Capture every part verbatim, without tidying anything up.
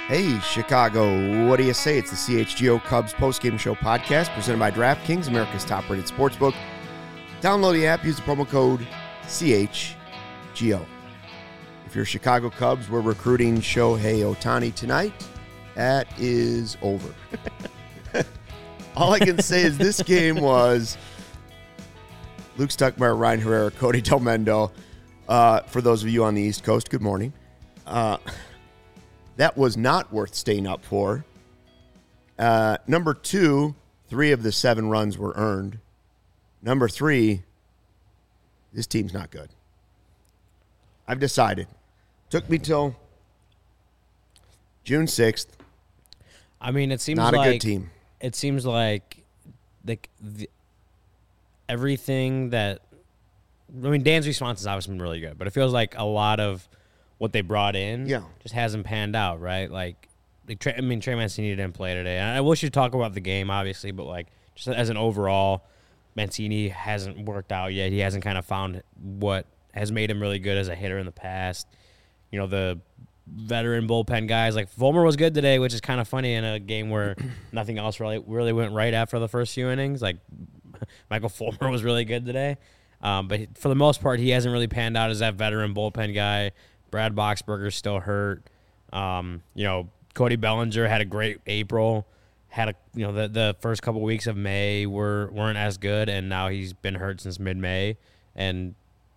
Hey, Chicago, what do you say? It's the C H G O Cubs postgame show podcast presented by DraftKings, America's top-rated sportsbook. Download the app, use the promo code C H G O. If you're Chicago Cubs, we're recruiting Shohei Ohtani tonight. That is over. All I can say is this game was Luke Stuckmeyer, Ryan Herrera, Cody Delmendo. Uh, for those of you on the East Coast, good morning. Uh, that was not worth staying up for. Uh, number two, three of the seven runs were earned. Number three, this team's not good. I've decided. Took me till June sixth. I mean, it seems not like, a good team. It seems like the, the everything that I mean, Dan's response has obviously been really good, but it feels like a lot of what they brought in yeah. just hasn't panned out, right? Like, like I mean, Trey Mancini didn't play today. And I wish you'd talk about the game, obviously, but like just as an overall, Mancini hasn't worked out yet. He hasn't kind of found what has made him really good as a hitter in the past. You know, the veteran bullpen guys like Fulmer was good today, which is kind of funny in a game where nothing else really really went right after the first few innings. Like Michael Fulmer was really good today. Um, but for the most part, he hasn't really panned out as that veteran bullpen guy. Brad Boxberger's still hurt. Um, you know, Cody Bellinger had a great April. Had a you know the the first couple weeks of May were weren't as good, and now he's been hurt since mid-May. And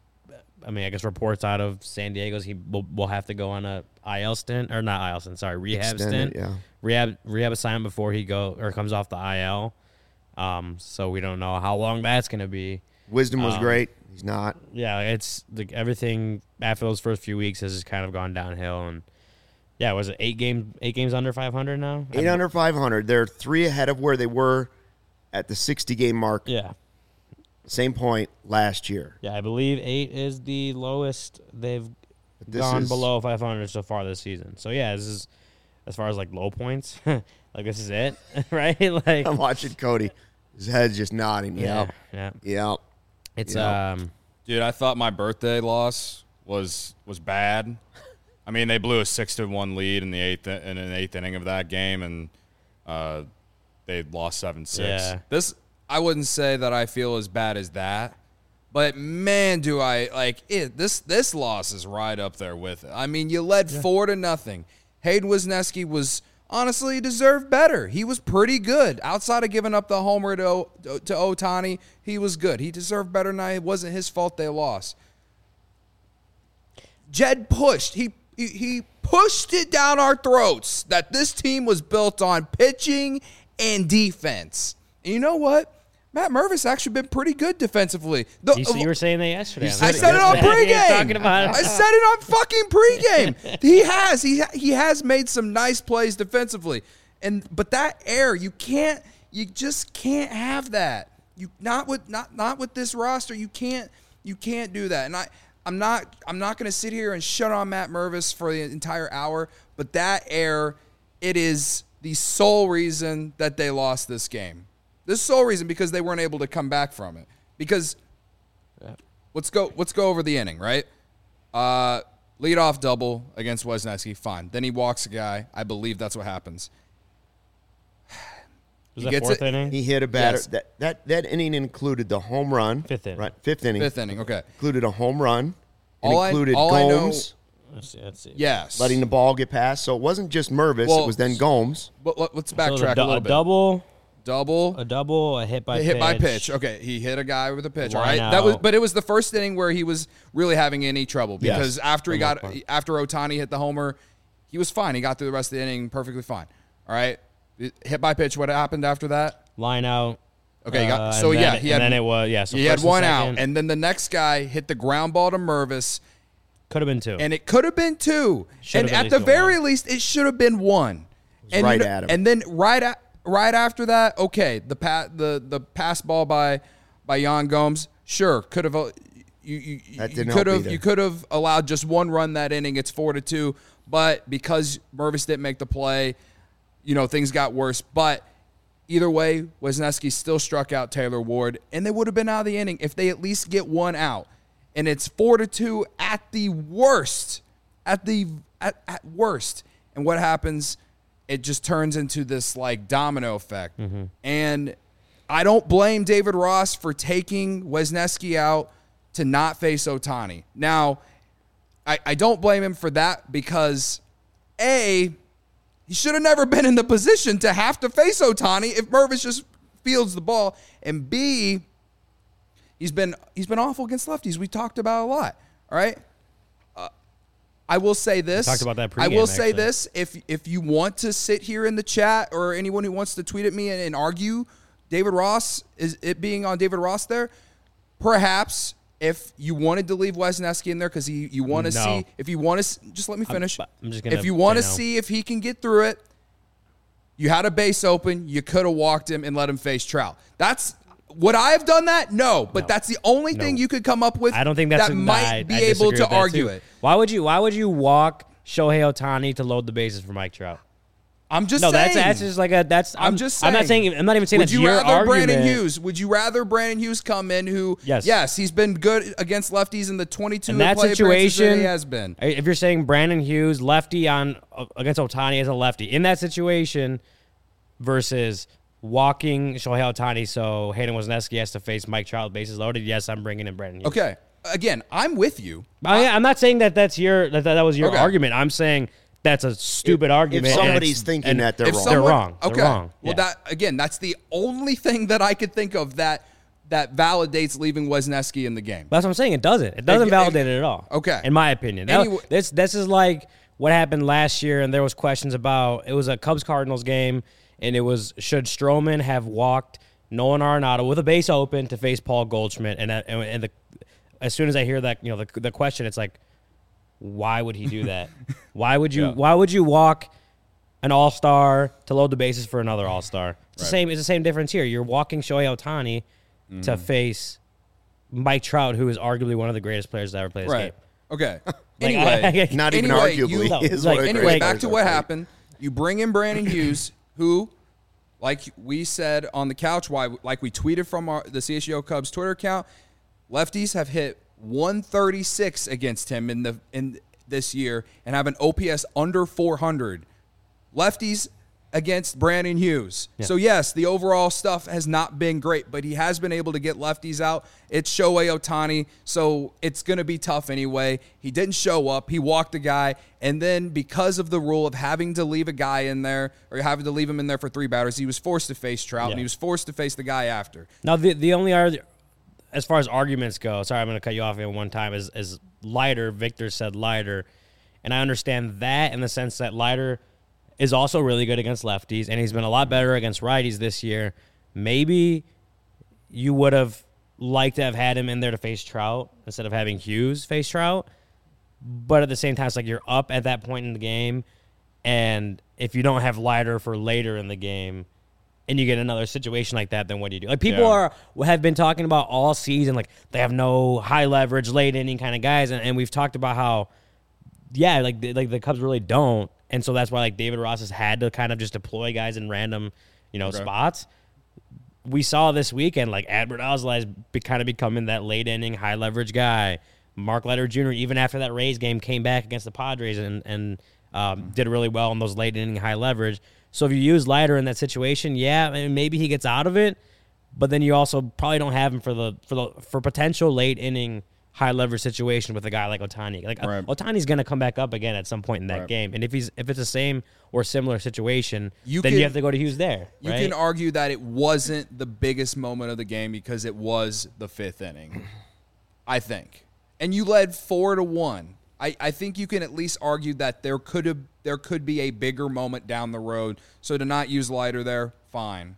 I mean, I guess reports out of San Diego's he will, will have to go on a I L stint or not I L stint, sorry, rehab Extended, stint, yeah. rehab rehab assignment before he go or comes off the I L. Um, so we don't know how long that's going to be. Wisdom was um, great. He's not. Yeah, it's like everything after those first few weeks has just kind of gone downhill. And yeah, was it eight game eight games under five hundred now? Eight under five hundred. They're three ahead of where they were at the sixty game mark. Yeah. Same point last year. Yeah, I believe eight is the lowest they've This gone is- below five hundred so far this season. So yeah, this is as far as like low points. Like this is it, right? Like I'm watching Cody. His head's just nodding. yeah, Yep. yeah. Yep. It's Yep. um Dude, I thought my birthday loss was was bad. I mean, they blew a six to one lead in the eighth in an eighth inning of that game, and uh, they lost seven six. Yeah. This I wouldn't say that I feel as bad as that, but man, do I like it. This this loss is right up there with it. I mean, you led yeah. four to nothing. Hayden Wesneski was honestly deserved better. He was pretty good. Outside of giving up the homer to to Ohtani, he was good. He deserved better than I. It wasn't his fault they lost. Jed pushed. He, he he pushed it down our throats that this team was built on pitching and defense. And you know what? Matt Mervis actually been pretty good defensively. The, you, you were saying that yesterday. I said it on pregame. Talking about it. I said it on fucking pregame. He has. He he has made some nice plays defensively. And but that air, you can't you just can't have that. You not with not not with this roster. You can't you can't do that. And I I'm not I'm not going to sit here and shut on Matt Mervis for the entire hour, but that air, it is the sole reason that they lost this game. This sole reason because they weren't able to come back from it. Because yeah. let's go let's go over the inning, right? Uh, leadoff double against Wesneski, fine. Then he walks a guy. I believe that's what happens. Was he that fourth it. inning? He hit a batter. Yes. That, that that inning included the home run. Fifth inning. Right, fifth inning. Fifth inning, okay. Included a home run. It All I- included all I know- Gomes Let's see, let's see. Yes. letting the ball get past. So it wasn't just Mervis. Well, it was then Gomes. But let- let's So backtrack a, du- a little a bit. double, Double. a double, a hit by hit pitch. by pitch. Okay, he hit a guy with a pitch. All Line right, that was, out. but it was the first inning where he was really having any trouble Yes, because after he for the got most part. after Ohtani hit the homer, he was fine. He got through the rest of the inning perfectly fine. All right, hit by pitch. What happened after that? Line out. Okay, he got, uh, so and yeah, then, he had and then it was yeah. So he had first and one out, second. and then the next guy hit the ground ball to Mervis, Could have been two. and it could have been two, Should and have at at the least been very one. least, it should have been one. And right you know- at him. And then right at right after that, okay, the pa- the the pass ball by by Yan Gomes, sure, could have. Uh, you you, That you didn't could help have either. you could have allowed just one run that inning. It's four to two, but because Mervis didn't make the play, you know things got worse. But either way, Wesneski still struck out Taylor Ward, and they would have been out of the inning if they at least get one out. And it's four to two at the worst, at the at, at worst. And what happens? It just turns into this like domino effect. Mm-hmm. And I don't blame David Ross for taking Wisniewski out to not face Ohtani. Now, I, I don't blame him for that because, A, he should have never been in the position to have to face Ohtani if Mervis just fields the ball. And B, he's been he's been awful against lefties. We talked about a lot. All right. Uh, I will say this. We talked about that pregame, I will say actually. this. If if you want to sit here in the chat or anyone who wants to tweet at me and, and argue David Ross is it being on David Ross there, perhaps if you wanted to leave Wisniewski in there because you, you want to No. see if you want to just let me finish. I'm, I'm just gonna if you want to say no. see if he can get through it, you had a base open. You could have walked him and let him face Trout. That's would I have done that? No, but No. that's the only No. thing you could come up with. I don't think that's that a, might I, be I able disagree to with that, argue too. it. Why would you? Why would you walk Shohei Ohtani to load the bases for Mike Trout? I'm just No, saying. that's that's just like a that's. I'm, I'm, just saying. I'm not saying. I'm not even saying Would that's you your rather argument. Brandon Hughes? Would you rather Brandon Hughes come in who? Yes. Yes, he's been good against lefties in the twenty-two In that play appearances that situation, he has been. if you're saying Brandon Hughes lefty on uh, against Ohtani as a lefty in that situation versus walking Shohei Ohtani so Hayden Wisniewski has to face Mike Trout with bases loaded, yes, I'm bringing in Brandon Hughes. Okay. Again, I'm with you. I, I'm not saying that that's your that, that was your Okay. argument. I'm saying that's a stupid argument. if and somebody's it's- thinking and that they're If wrong. They're someone- wrong. They're Okay. wrong. Well, Yeah. that again, that's the only thing that I could think of that that validates leaving Wisniewski in the game. That's what I'm saying. It doesn't. It doesn't It- validate it at all. Okay. In my opinion. That- Anyway- this this is like what happened last year, and there was questions about it was a Cubs Cardinals game, and it was should Stroman have walked Nolan Arenado with a base open to face Paul Goldschmidt, and uh, and, and the as soon as I hear that, you know, the the question, it's like, why would he do that? why would you Yeah. Why would you walk an all star to load the bases for another all star? It's the Right. same. It's the same difference here. You're walking Shohei Ohtani to face Mike Trout, who is arguably one of the greatest players to ever play this Right. game. Okay. Like, Anyway, I- Not even anyway, arguably. you- is like, one of the Anyway, greatest back players to ever what played. happened. You bring in Brandon Hughes, who, like we said on the couch, why like we tweeted from our, the C H G O Cubs Twitter account, lefties have hit one thirty-six against him in the in this year and have an O P S under four hundred. Lefties against Brandon Hughes. Yeah. So yes, the overall stuff has not been great, but he has been able to get lefties out. It's Shohei Ohtani, so it's going to be tough anyway. He didn't show up. He walked a guy, and then because of the rule of having to leave a guy in there or having to leave him in there for three batters, he was forced to face Trout, Yeah. and he was forced to face the guy after. Now, the the only ar- as far as arguments go, sorry, I'm going to cut you off at one time. Is is Leiter? Victor said Leiter, and I understand that in the sense that Leiter is also really good against lefties, and he's been a lot better against righties this year. Maybe you would have liked to have had him in there to face Trout instead of having Hughes face Trout. But at the same time, it's like you're up at that point in the game, and if you don't have Leiter for later in the game, and you get another situation like that, then what do you do? Like people Yeah. are have been talking about all season, like they have no high leverage, late inning kind of guys, and, and we've talked about how, yeah, like the, like the Cubs really don't, and so that's why like David Ross has had to kind of just deploy guys in random, you know, Okay. spots. We saw this weekend like Adbert Alzolay is be, kind of becoming that late inning high leverage guy. Mark Leiter Junior even after that Rays game came back against the Padres and and um, did really well in those late inning high leverage. So if you use Leiter in that situation, yeah, I mean, maybe he gets out of it, but then you also probably don't have him for the for the for potential late inning high leverage situation with a guy like Ohtani. Like Right. Ohtani's going to come back up again at some point in that Right. game, and if he's if it's the same or similar situation, You then can- you have to go to Hughes there. You right? can argue that it wasn't the biggest moment of the game because it was the fifth inning, I think. And you led four to one. I, I think you can at least argue that there could have there could be a bigger moment down the road. So to not use Leiter there, fine.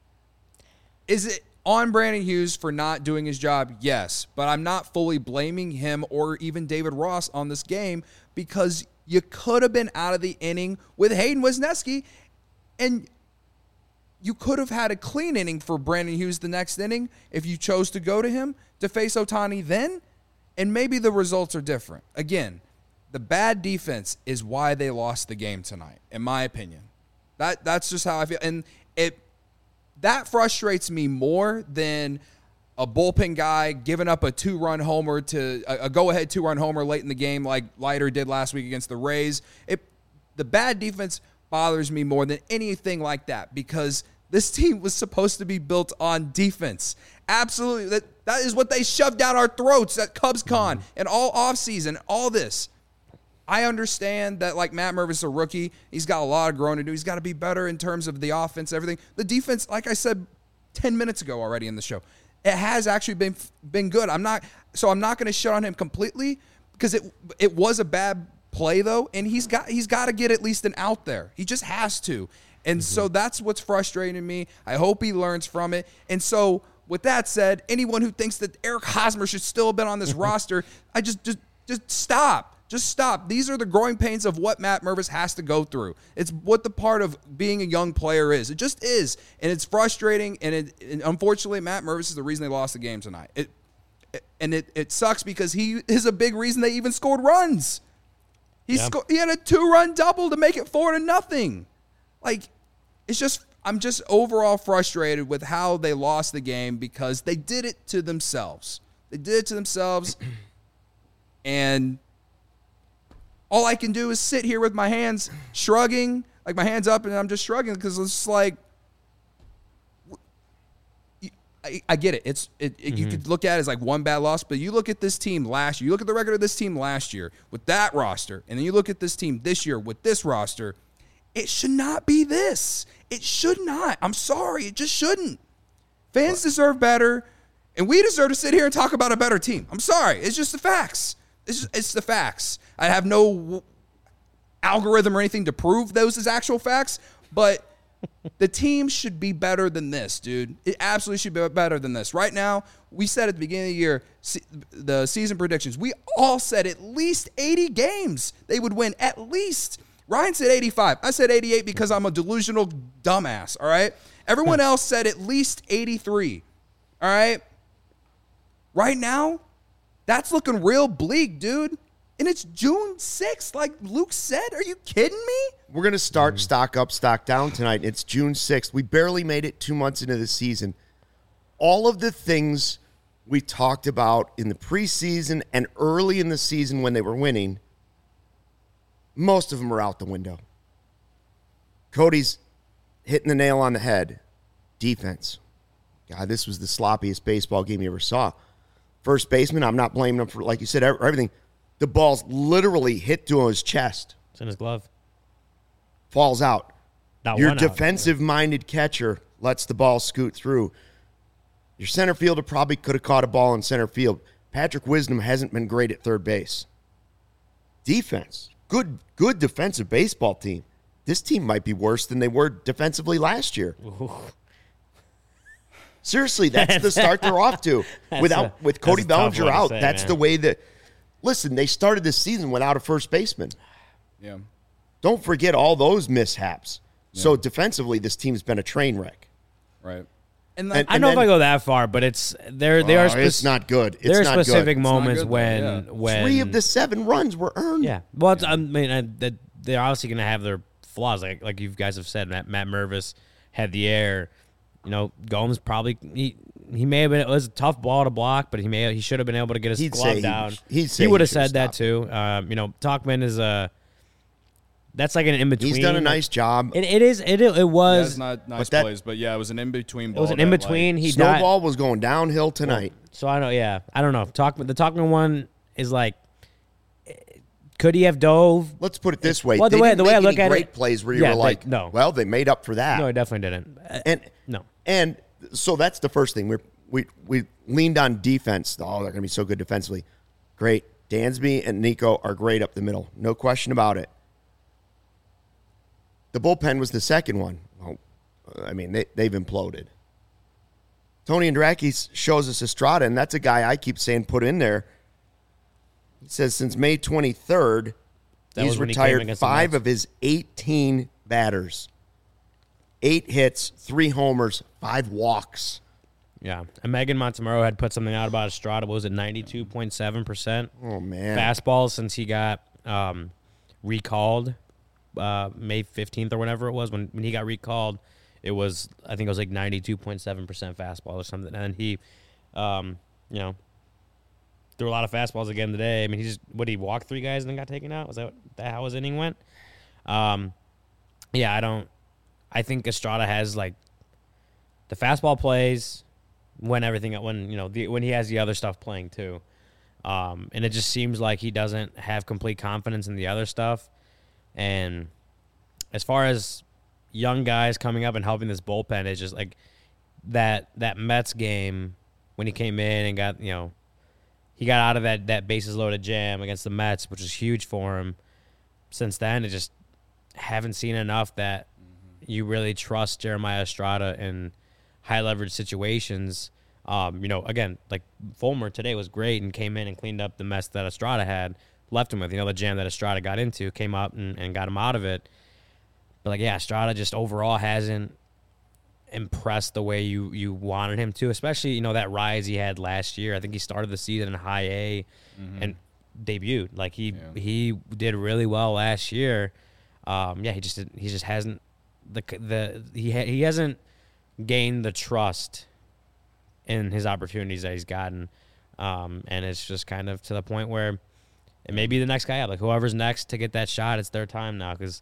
Is it on Brandon Hughes for not doing his job? Yes. But I'm not fully blaming him or even David Ross on this game because you could have been out of the inning with Hayden Wisniewski, and you could have had a clean inning for Brandon Hughes the next inning if you chose to go to him to face Ohtani then, and maybe the results are different. Again, the bad defense is why they lost the game tonight, in my opinion. That that's just how I feel, and it that frustrates me more than a bullpen guy giving up a two-run homer to a, a go-ahead two-run homer late in the game like Leiter did last week against the Rays. It the bad defense bothers me more than anything like that because this team was supposed to be built on defense. Absolutely. That, that is what they shoved down our throats at CubsCon and all offseason, all this. I understand that, like, Matt Mervis is a rookie. He's got a lot of growing to do. He's got to be better in terms of the offense, everything. The defense, like I said ten minutes ago already in the show, it has actually been been good. I'm not so I'm not going to shut on him completely because it it was a bad play though, and he's got he's got to get at least an out there. He just has to. And mm-hmm. so that's what's frustrating me. I hope he learns from it. And so with that said, anyone who thinks that Eric Hosmer should still have been on this roster, I just just just stop. Just stop. These are the growing pains of what Matt Mervis has to go through. It's what the part of being a young player is. It just is. And it's frustrating. And, it, and unfortunately, Matt Mervis is the reason they lost the game tonight. It, it and it, it sucks because he is a big reason they even scored runs. He yeah. scored. He had a two-run double to make it four to nothing. Like, it's just, I'm just overall frustrated with how they lost the game because they did it to themselves. They did it to themselves. And all I can do is sit here with my hands shrugging, like my hands up, and I'm just shrugging because it's just like, I, I get it. It's it, it mm-hmm. You could look at it as like one bad loss, but you look at this team last year. You look at the record of this team last year with that roster, and then you look at this team this year with this roster. It should not be this. It should not. I'm sorry. It just shouldn't. Fans deserve better, and we deserve to sit here and talk about a better team. I'm sorry. It's just the facts. It's, just, it's the facts. I have no algorithm or anything to prove those as actual facts, but the team should be better than this, dude. It absolutely should be better than this. Right now, we said at the beginning of the year, the season predictions, we all said at least eighty games they would win, at least. Ryan said eighty-five. I said eighty-eight because I'm a delusional dumbass, all right? Everyone else said at least eighty-three, all right? Right now, that's looking real bleak, dude. And it's June sixth, like Luke said. Are you kidding me? We're going to start stock up, stock down tonight. It's June sixth. We barely made it two months into the season. All of the things we talked about in the preseason and early in the season when they were winning, most of them are out the window. Cody's hitting the nail on the head. Defense. God, this was the sloppiest baseball game you ever saw. First baseman, I'm not blaming him for, like you said, everything. The ball's literally hit to his chest. It's in his glove. Falls out. Not Your one defensive-minded out. catcher lets the ball scoot through. Your center fielder probably could have caught a ball in center field. Patrick Wisdom hasn't been great at third base. Defense. Good, good defensive baseball team. This team might be worse than they were defensively last year. Ooh. Seriously, that's the start they're off to. Without a, with Cody Bellinger out, say, that's man. the way that. Listen, they started this season without a first baseman. Yeah. Don't forget all those mishaps. Yeah. So defensively, this team's been a train wreck. Right. And, and I don't know if I go that far, but it's there. They uh, are. Spe- it's not good. It's there are not specific good. moments good, when yeah. when three of the seven runs were earned. Yeah. Well, it's, I mean, I, that they're obviously going to have their flaws, like like you guys have said. Matt, Matt Mervis had the air. You know, Gomes probably he, he may have been. It was a tough ball to block, but he may he should have been able to get his He'd glove he, down. He'd he would have said that too. Um, you know, Talkman is a. That's like an in between. He's done a nice job. It, it is. It it was yeah, not nice but that, plays, but yeah, it was an in between. It was an in between. Like, he Snowball died. was going downhill tonight. Well, so I know. Yeah, I don't know. Talkman. The Talkman one is like. Could he have dove? Let's put it this way. Well, the they way didn't the way I make look any at great it, plays where you yeah, were like, they, no. well, they made up for that. No, he definitely didn't. And no. And so that's the first thing. We we we leaned on defense. Oh, they're going to be so good defensively. Great. Dansby and Nico are great up the middle. No question about it. The bullpen was the second one. Well, I mean, they, they've imploded. Tony Andracki shows us Estrada, and that's a guy I keep saying put in there. He says since May twenty-third, that he's retired he five of his eighteen batters. Eight hits, three homers, five walks. Yeah. And Megan Montemurro had put something out about Estrada. What was it, ninety-two point seven percent? Oh, man. Fastball since he got um, recalled uh, May fifteenth or whatever it was. When, when he got recalled, it was, I think it was like ninety-two point seven percent fastball or something. And he, um, you know, threw a lot of fastballs again today. I mean, he just, what, he walked three guys and then got taken out? Was that, that how his inning went? Um, yeah, I don't. I think Estrada has like the fastball plays when everything when you know the, when he has the other stuff playing too, um, and it just seems like he doesn't have complete confidence in the other stuff. And as far as young guys coming up and helping this bullpen, it's just like that that Mets game when he came in and got you know he got out of that that bases loaded jam against the Mets, which was huge for him. Since then, it just haven't seen enough that you really trust Jeremiah Estrada in high leverage situations. Um, you know, again, like Fulmer today was great and came in and cleaned up the mess that Estrada had left him with. You know, the jam that Estrada got into, came up and, and got him out of it. But like, yeah, Estrada just overall hasn't impressed the way you you wanted him to, especially, you know, that rise he had last year. I think he started the season in high A mm-hmm. and debuted. Like he yeah. he did really well last year. Um, yeah, he just he just hasn't the the he ha, he hasn't gained the trust in his opportunities that he's gotten, um, and it's just kind of to the point where it may be the next guy up. Like whoever's next to get that shot, it's their time now. Because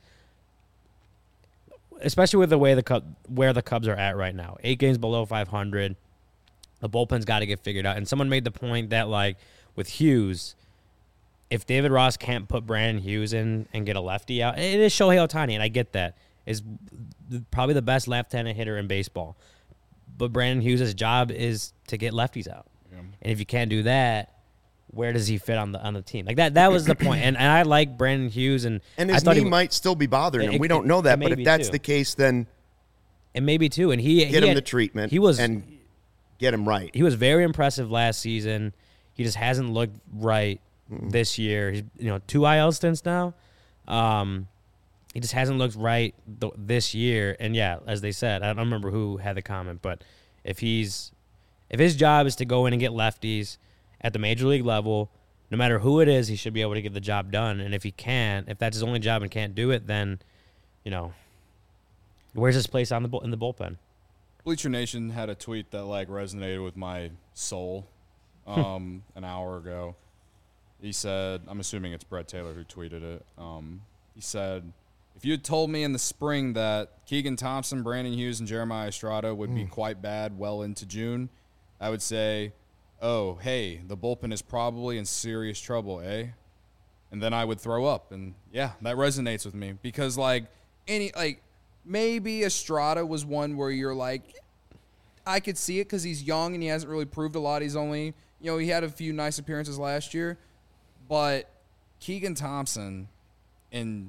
especially with the way the Cub, where the Cubs are at right now, eight games below five hundred, the bullpen's got to get figured out. And someone made the point that like with Hughes, if David Ross can't put Brandon Hughes in and get a lefty out, it is Shohei Ohtani, and I get that. Is probably the best left-handed hitter in baseball. But Brandon Hughes' job is to get lefties out. Yeah. And if you can't do that, where does he fit on the on the team? Like that that was the point. And, and I like Brandon Hughes, and and his I thought knee he, might still be bothering him. It, we don't know that, it, it but if that's too. the case, then it may be too. And he get he him had, the treatment. He was and get him right. He was very impressive last season. He just hasn't looked right mm-hmm. this year. He's you know two I L stints now. Um, He just hasn't looked right th- this year. And, yeah, as they said, I don't remember who had the comment, but if he's if his job is to go in and get lefties at the major league level, no matter who it is, he should be able to get the job done. And if he can't, if that's his only job and can't do it, then, you know, where's his place on the bull- in the bullpen? Bleacher Nation had a tweet that, like, resonated with my soul um, an hour ago. He said, I'm assuming it's Brett Taylor who tweeted it. Um, he said, if you had told me in the spring that Keegan Thompson, Brandon Hughes, and Jeremiah Estrada would mm. be quite bad well into June, I would say, oh, hey, the bullpen is probably in serious trouble, eh? And then I would throw up. And, yeah, that resonates with me because, like, any like maybe Estrada was one where you're like, I could see it because he's young and he hasn't really proved a lot. He's only, you know, he had a few nice appearances last year. But Keegan Thompson and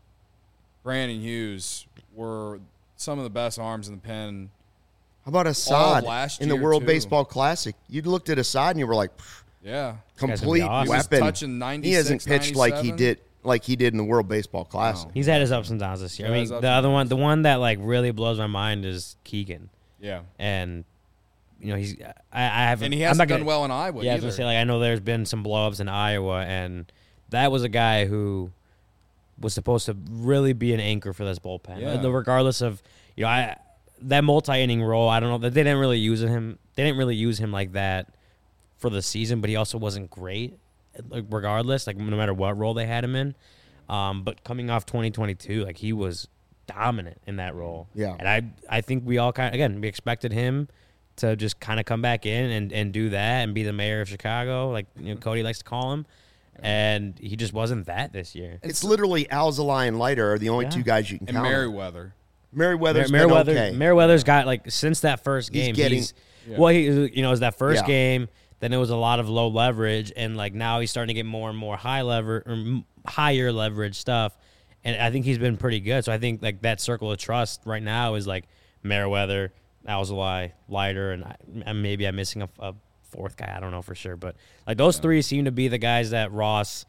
Brandon Hughes were some of the best arms in the pen. How about Assad last in the year, World too. Baseball Classic? You looked at Assad and you were like, yeah, complete awesome. weapon. He was touching ninety-six, he hasn't pitched like he ninety-seven. did like he did in the World Baseball Classic. No. He's had his ups and downs this year. Yeah, I his mean, ups the and other one, downs. the one that, like, really blows my mind is Keegan. Yeah. And, you know, he's – I I haven't – And he I'm hasn't not done gonna, well in Iowa Yeah, I was either. going to say, like, I know there's been some blow-ups in Iowa, and that was a guy who was supposed to really be an anchor for this bullpen. Yeah. Uh, Regardless of, you know, I that multi-inning role, I don't know. They didn't really use him. They didn't really use him like that for the season, but he also wasn't great like, regardless, like no matter what role they had him in. Um, but coming off twenty twenty-two, like he was dominant in that role. Yeah. And I I think we all kind of, again, we expected him to just kind of come back in and, and do that and be the mayor of Chicago, like you know, Cody likes to call him. And he just wasn't that this year. It's literally Alzolay and Leiter are the only Yeah. two guys you can And count on. Merriweather. Merriweather's Mer- been Merriweather, okay. Merriweather's got like since that first He's game. getting- he's Yeah. well, he you know, it was that first Yeah. game. Then it was a lot of low leverage, and like now he's starting to get more and more high lever or m- higher leverage stuff. And I think he's been pretty good. So I think like that circle of trust right now is like Merriweather, Alzolay, Leiter, and, I, and maybe I'm missing a, a fourth guy. I don't know for sure, but like those Yeah. three seem to be the guys that Ross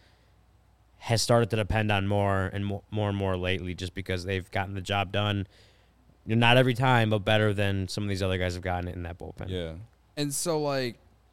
has started to depend on more and more, more and more lately, just because they've gotten the job done. You know, not every time, but better than some of these other guys have gotten it in that bullpen. Yeah. And so, like,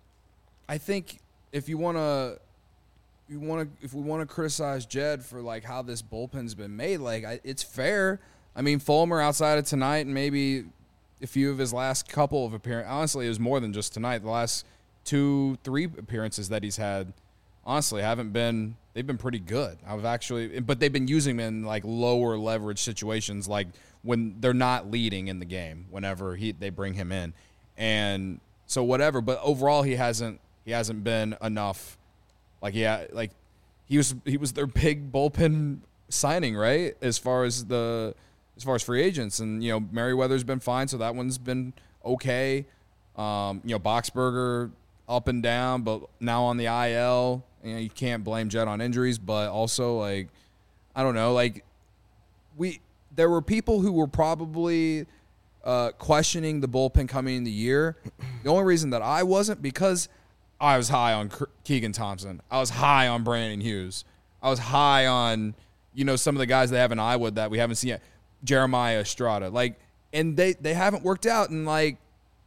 I think if you want to, you want to, if we want to criticize Jed for like how this bullpen's been made, like I, it's fair. I mean, Fulmer outside of tonight and maybe a few of his last couple of appearances. Honestly, it was more than just tonight. The last two, three appearances that he's had, honestly, haven't been they've been pretty good. I've actually, but they've been using him in like lower leverage situations, like when they're not leading in the game. Whenever he they bring him in, and so whatever. But overall, he hasn't he hasn't been enough. Like yeah, like he was he was their big bullpen signing, right? As far as the as far as free agents, and you know Merriweather's been fine, so that one's been okay. Um, you know Boxberger up and down, but now on the I L. You know, you can't blame Jed on injuries, but also like I don't know, like we there were people who were probably uh, questioning the bullpen coming in the year. The only reason that I wasn't because I was high on Keegan Thompson. I was high on Brandon Hughes. I was high on you know some of the guys they have in Iowa that we haven't seen yet. Jeremiah Estrada, like, and they they haven't worked out, and like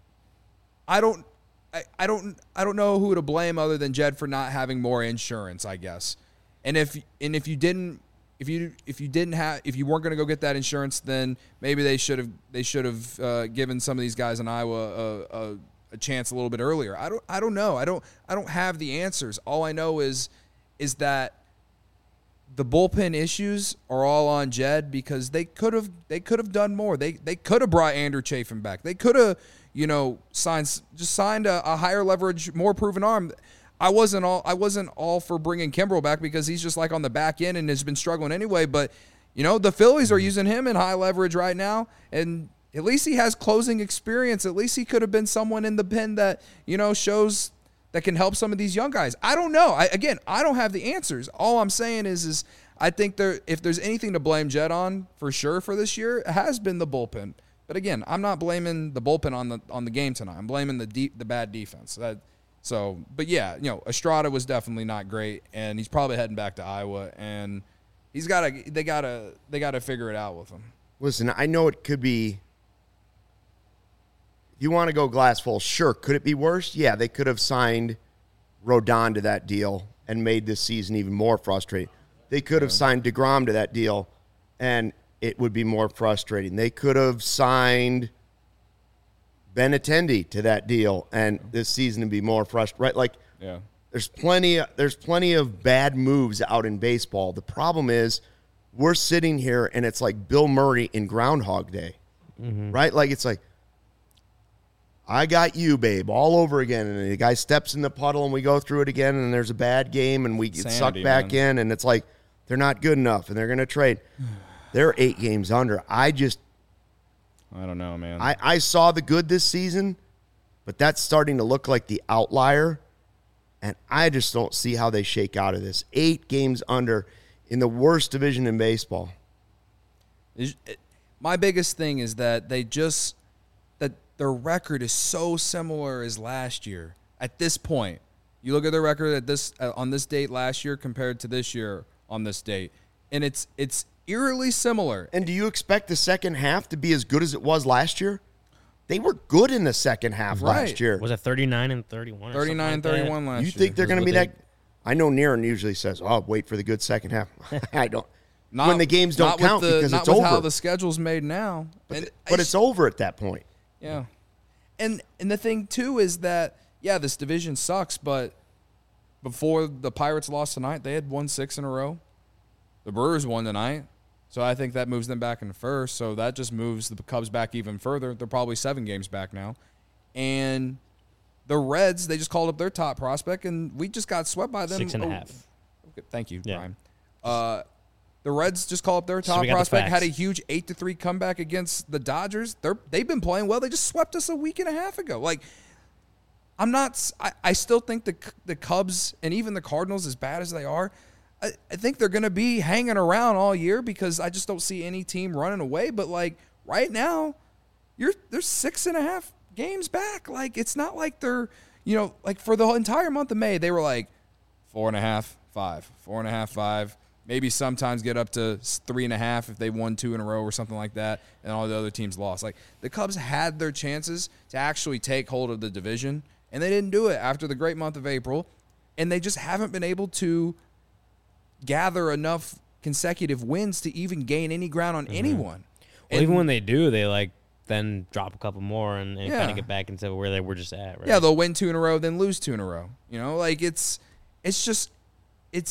I don't. I, I don't I don't know who to blame other than Jed for not having more insurance, I guess. And if and if you didn't if you if you didn't have if you weren't going to go get that insurance, then maybe they should have they should have uh, given some of these guys in Iowa a, a, a chance a little bit earlier. I don't I don't know. I don't I don't have the answers. All I know is is that the bullpen issues are all on Jed because they could have they could have done more. They they could have brought Andrew Chafin back. They could have you know, signs just signed a, a higher leverage, more proven arm. I wasn't all I wasn't all for bringing Kimbrel back because he's just like on the back end and has been struggling anyway. But you know, the Phillies are using him in high leverage right now, and at least he has closing experience. At least he could have been someone in the pen that you know shows that can help some of these young guys. I don't know. I, again, I don't have the answers. All I'm saying is, is I think there if there's anything to blame Jed on for sure for this year, it has been the bullpen. But again, I'm not blaming the bullpen on the on the game tonight. I'm blaming the deep, the bad defense. That, so, but yeah, you know, Estrada was definitely not great, and he's probably heading back to Iowa, and he's got to they got to they got to figure it out with him. Listen, I know it could be. If you want to go glass full, sure. Could it be worse? Yeah, they could have signed Rodon to that deal and made this season even more frustrating. They could have yeah. signed DeGrom to that deal, and it would be more frustrating. They could have signed Benintendi to that deal, and this season would be more frustrating. Right? Like, yeah. there's plenty. There's plenty of bad moves out in baseball. The problem is, we're sitting here and it's like Bill Murray in Groundhog Day, mm-hmm. right? Like it's like, I got you, babe, all over again, and the guy steps in the puddle, and we go through it again, and there's a bad game, and we get Sanity, sucked back man. in, and it's like they're not good enough, and they're going to trade. They're eight games under. I just, I don't know, man. I, I saw the good this season, but that's starting to look like the outlier, and I just don't see how they shake out of this. Eight games under in the worst division in baseball. My biggest thing is that they just that their record is so similar as last year. At this point, you look at their record at this uh, on this date last year compared to this year on this date, and it's it's. eerily similar. And do you expect the second half to be as good as it was last year? They were good in the second half right. last year. Was it thirty-nine and thirty-one? thirty-nine and thirty-one last year. You think they're going to be that? I know Niren usually says, "Oh, wait for the good second half." I don't. Not, when the games don't count the, because not it's with over. how the schedule's made now. But, and the, but I, it's over at that point. Yeah. And and the thing too is that yeah, this division sucks, but before the Pirates lost tonight, they had won six in a row. The Brewers won tonight. So I think that moves them back in first. So that just moves the Cubs back even further. They're probably seven games back now. And the Reds, they just called up their top prospect, and we just got swept by them. Six and a oh, half. Okay, thank you, Yeah. Brian. Uh, the Reds just called up their So top we got the prospect, facts. had a huge eight to three comeback against the Dodgers. They're, they've been playing well. They just swept us a week and a half ago. Like, I'm not I, – I still think the the Cubs and even the Cardinals, as bad as they are, I, I think they're going to be hanging around all year because I just don't see any team running away. But, like, right now, you're they're six and a half games back. Like, it's not like they're, you know, like for the entire month of May, they were like four and a half, five, four and a half, five. Maybe sometimes get up to three and a half if they won two in a row or something like that, and all the other teams lost. Like, the Cubs had their chances to actually take hold of the division, and they didn't do it after the great month of April, and they just haven't been able to gather enough consecutive wins to even gain any ground on mm-hmm. anyone. Well, and, even when they do, they like then drop a couple more and, and Yeah. kind of get back into where they were just at. Right? Yeah, they'll win two in a row, then lose two in a row. You know, like it's it's just it's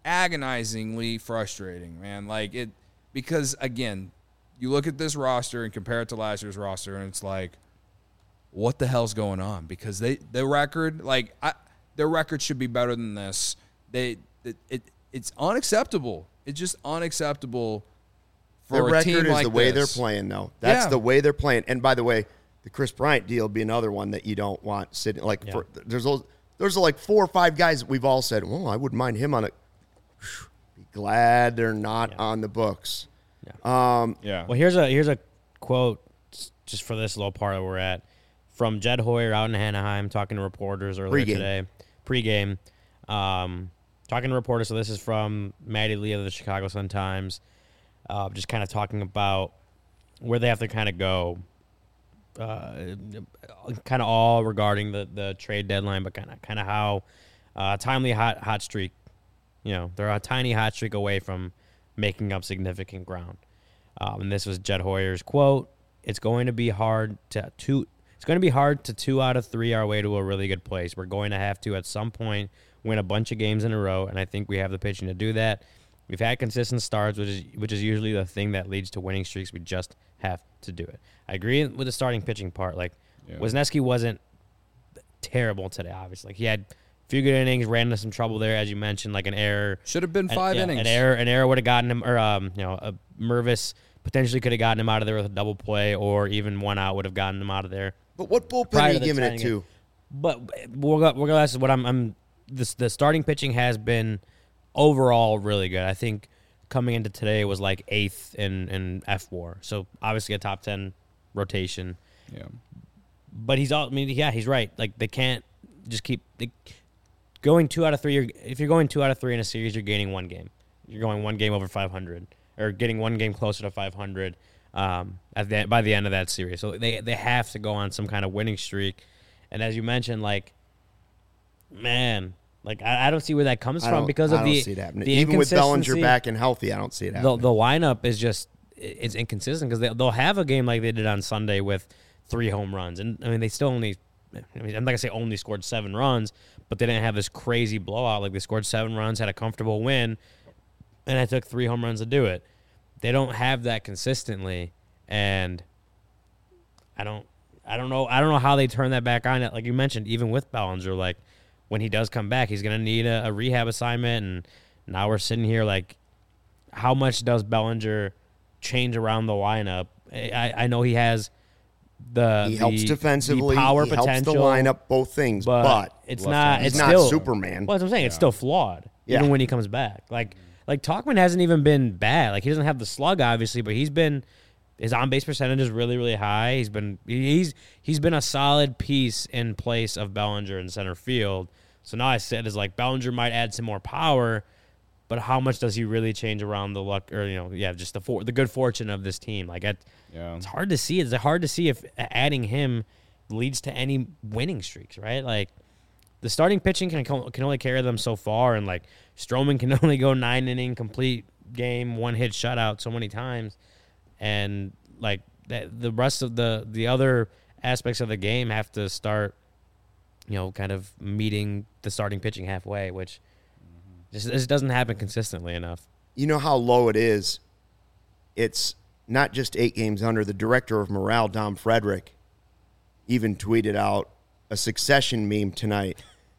agonizingly frustrating, man. Like it, because again, you look at this roster and compare it to last year's roster, and it's like, what the hell's going on? Because they, their record, like, I, their record should be better than this. They, it, it it's unacceptable. It's just unacceptable for Their a record team is like the way this. they're playing, though. That's Yeah. the way they're playing. And by the way, the Chris Bryant deal would be another one that you don't want sitting. Like, Yeah. for, there's a, there's like four or five guys that we've all said, well, I wouldn't mind him on it. Be glad they're not Yeah. on the books. Yeah. Well, here's a here's a quote just for this little part that we're at from Jed Hoyer out in Anaheim talking to reporters earlier Pre-game. today. Pre-game. Um, talking to reporters. So this is from Matty Lee of the Chicago Sun-Times. Uh, just kind of talking about where they have to kind of go. Uh, kind of all regarding the, the trade deadline, but kind of kind of how uh, timely hot hot streak. You know, they're a tiny hot streak away from making up significant ground. Um, and this was Jed Hoyer's quote: "It's going to be hard to two. It's going to be hard to two out of three our way to a really good place. We're going to have to at some point win a bunch of games in a row, and I think we have the pitching to do that. We've had consistent starts, which is which is usually the thing that leads to winning streaks. We just have to do it." I agree with the starting pitching part. Like Yeah. Wisniewski wasn't terrible today. Obviously, like, he had a few good innings, ran into some trouble there, as you mentioned, like an error. Should have been An- five yeah, innings. An error, an error would have gotten him, or um, you know, a Mervis potentially could have gotten him out of there with a double play, or even one out would have gotten him out of there. But what bullpen Prior are to you the giving it tying to? But regardless of what I'm, I'm this the starting pitching has been overall really good. I think coming into today was like eighth in in F WAR, so obviously a top ten rotation. Yeah. But he's all. I mean, yeah, he's right. Like, they can't just keep they, going two out of three. You're, if you're going two out of three in a series, you're gaining one game. You're going one game over five hundred, or getting one game closer to five hundred um, at the by the end of that series. So they they have to go on some kind of winning streak. And as you mentioned, like, man, like I, I don't see where that comes I from don't- because I of don't the see it happening. the Even with Bellinger inconsistency. back and healthy, I don't see it the, happening. the lineup is just it's inconsistent because they, they'll have a game like they did on Sunday with three home runs, and I mean they still only, I mean, I'm not gonna say only scored seven runs, but they didn't have this crazy blowout. Like, they scored seven runs, had a comfortable win, and it took three home runs to do it. They don't have that consistently, and I don't, I don't know, I don't know how they turn that back on. Like you mentioned, even with Bellinger, like when he does come back, he's gonna need a, a rehab assignment, and now we're sitting here like, how much does Bellinger change around the lineup? I, I know he has the he helps the- defensively. the power he potential, helps the lineup, both things. but, But, it's left not. hand. It's he's not still Superman. Well, that's what I'm saying. It's still flawed, Yeah. even when he comes back. Like like Talkman hasn't even been bad. Like, he doesn't have the slug, obviously, but he's been his on base percentage is really really high. He's been he's he's been a solid piece in place of Bellinger in center field. So now I said is like Bellinger might add some more power, but how much does he really change around the luck, or you know, yeah, just the for, the good fortune of this team? Like, it, Yeah. it's hard to see. It's hard to see if adding him leads to any winning streaks, right? Like, the starting pitching can can only carry them so far, and like Stroman can only go nine inning complete game, one hit shutout so many times, and like that, the rest of the the other aspects of the game have to start, you know, kind of meeting the starting pitching halfway, which just this doesn't happen consistently enough. You know how low it is? It's not just eight games under. The director of morale, Dom Frederick, even tweeted out a Succession meme tonight.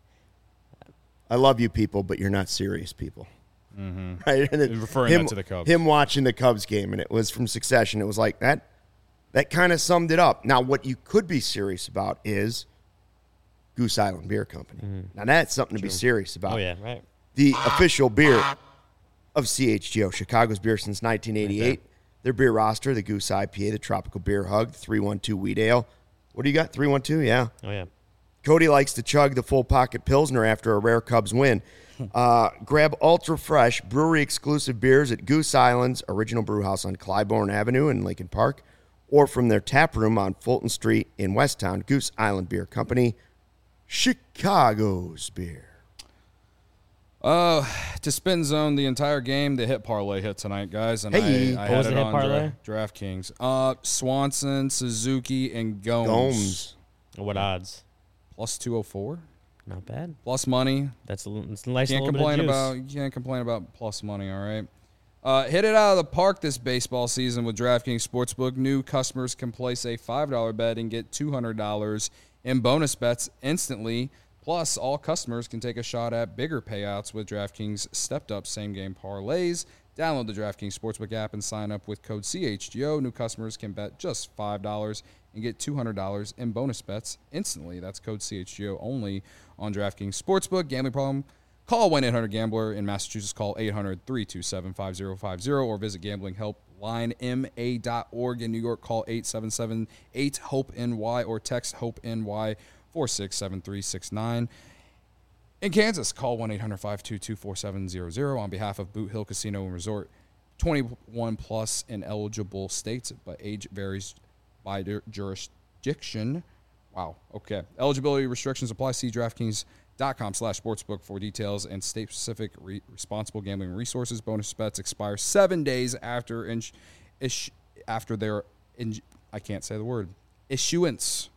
I love you people, but you're not serious people. Mm-hmm. Right? And it- Referring him, that to the Cubs. Him watching the Cubs game, and it was from Succession. It was like that. That kind of summed it up. Now, what you could be serious about is Goose Island Beer Company. Now, that's something to be serious about. Oh yeah, right. The official beer of C H G O, Chicago's beer since nineteen eighty-eight. Their beer roster, the Goose I P A, the Tropical Beer Hug, the three one two Wheat Ale. What do you got? three one two, yeah. Oh yeah. Cody likes to chug the full pocket Pilsner after a rare Cubs win. Uh, grab ultra fresh brewery exclusive beers at Goose Island's original brew house on Clybourne Avenue in Lincoln Park, or from their tap room on Fulton Street in Westtown. Goose Island Beer Company, Chicago's beer. Uh, to spin zone the entire game, the hit parlay hit tonight, guys, and Hey. I, I What had was it the hit on parlay? Dra- DraftKings. Uh, Swanson, Suzuki, and Gomes, Gomes. What odds? plus two oh four. Not bad. Plus money. That's a, little- it's a nice Can't little complain bit of juice. about you can't complain about plus money, all right? Uh, hit it out of the park this baseball season with DraftKings Sportsbook. New customers can place a five dollar bet and get two hundred dollars in bonus bets instantly. Plus, all customers can take a shot at bigger payouts with DraftKings stepped-up same-game parlays. Download the DraftKings Sportsbook app and sign up with code C H G O. New customers can bet just five dollars and get two hundred dollars in bonus bets instantly. That's code C H G O only on DraftKings Sportsbook. Gambling problem? Call one eight hundred gambler. In Massachusetts, call eight hundred, three two seven, five zero five zero or visit gambling help line m a dot org. In New York, call eight seven seven, eight, hope N Y or text HOPE-N Y four six seven three six nine. In Kansas, call one eight hundred, five two two, four seven zero zero on behalf of Boot Hill Casino and Resort. twenty-one plus in eligible states, but age varies by their jurisdiction. Wow. Okay. Eligibility restrictions apply. See DraftKings.com slash sportsbook for details and state-specific re- responsible gambling resources. Bonus bets expire seven days after in- ish- after their in- I can't say the word issuance.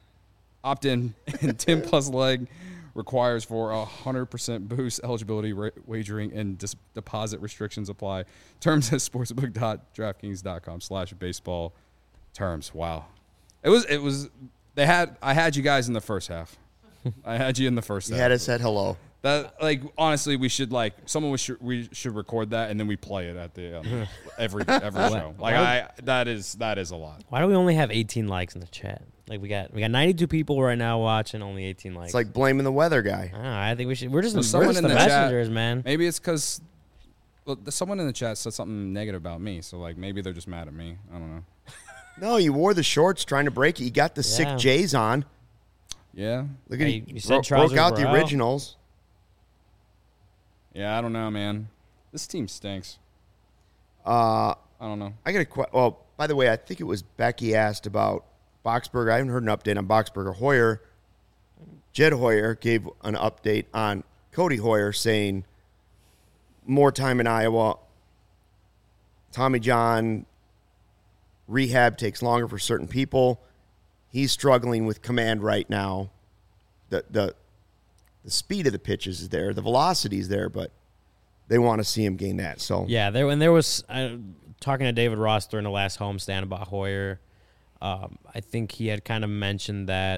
Opt-in and ten plus leg requires for a one hundred percent boost. Eligibility, ra- wagering, and dis- deposit restrictions apply. Terms at sportsbook.draftkings.com slash baseball terms. Wow. It was, it was, they had, I had you guys in the first half. I had you in the first You half. had us at hello. That, like, honestly, we should, like, someone we should, we should record that and then we play it at the, um, every, every show. Like, I, that is, that is a lot. Why do we only have eighteen likes in the chat? Like we got we got ninety-two people right now watching, only eighteen likes. It's like blaming the weather guy. I don't know, I think we should. We're just, So we're someone just in the, the chat- messengers, man. Maybe it's because, well, the- someone in the chat said something negative about me. So, like, maybe they're just mad at me. I don't know. No, you wore the shorts trying to break it. You got the Yeah. sick J's on. Yeah. Look at Hey, you. you said Bro- broke trousers out were the out. originals. Yeah, I don't know, man. This team stinks. Uh, I don't know. I got a question. Well, by the way, I think it was Becky asked about Boxberger. I haven't heard an update on Boxberger. Hoyer, Jed Hoyer gave an update on Cody Hoyer saying more time in Iowa. Tommy John rehab takes longer for certain people. He's struggling with command right now. The the the speed of the pitches is there, the velocity is there, but they want to see him gain that. So Yeah, there when there was uh, talking to David Ross during the last homestand about Hoyer. Um, I think he had kind of mentioned that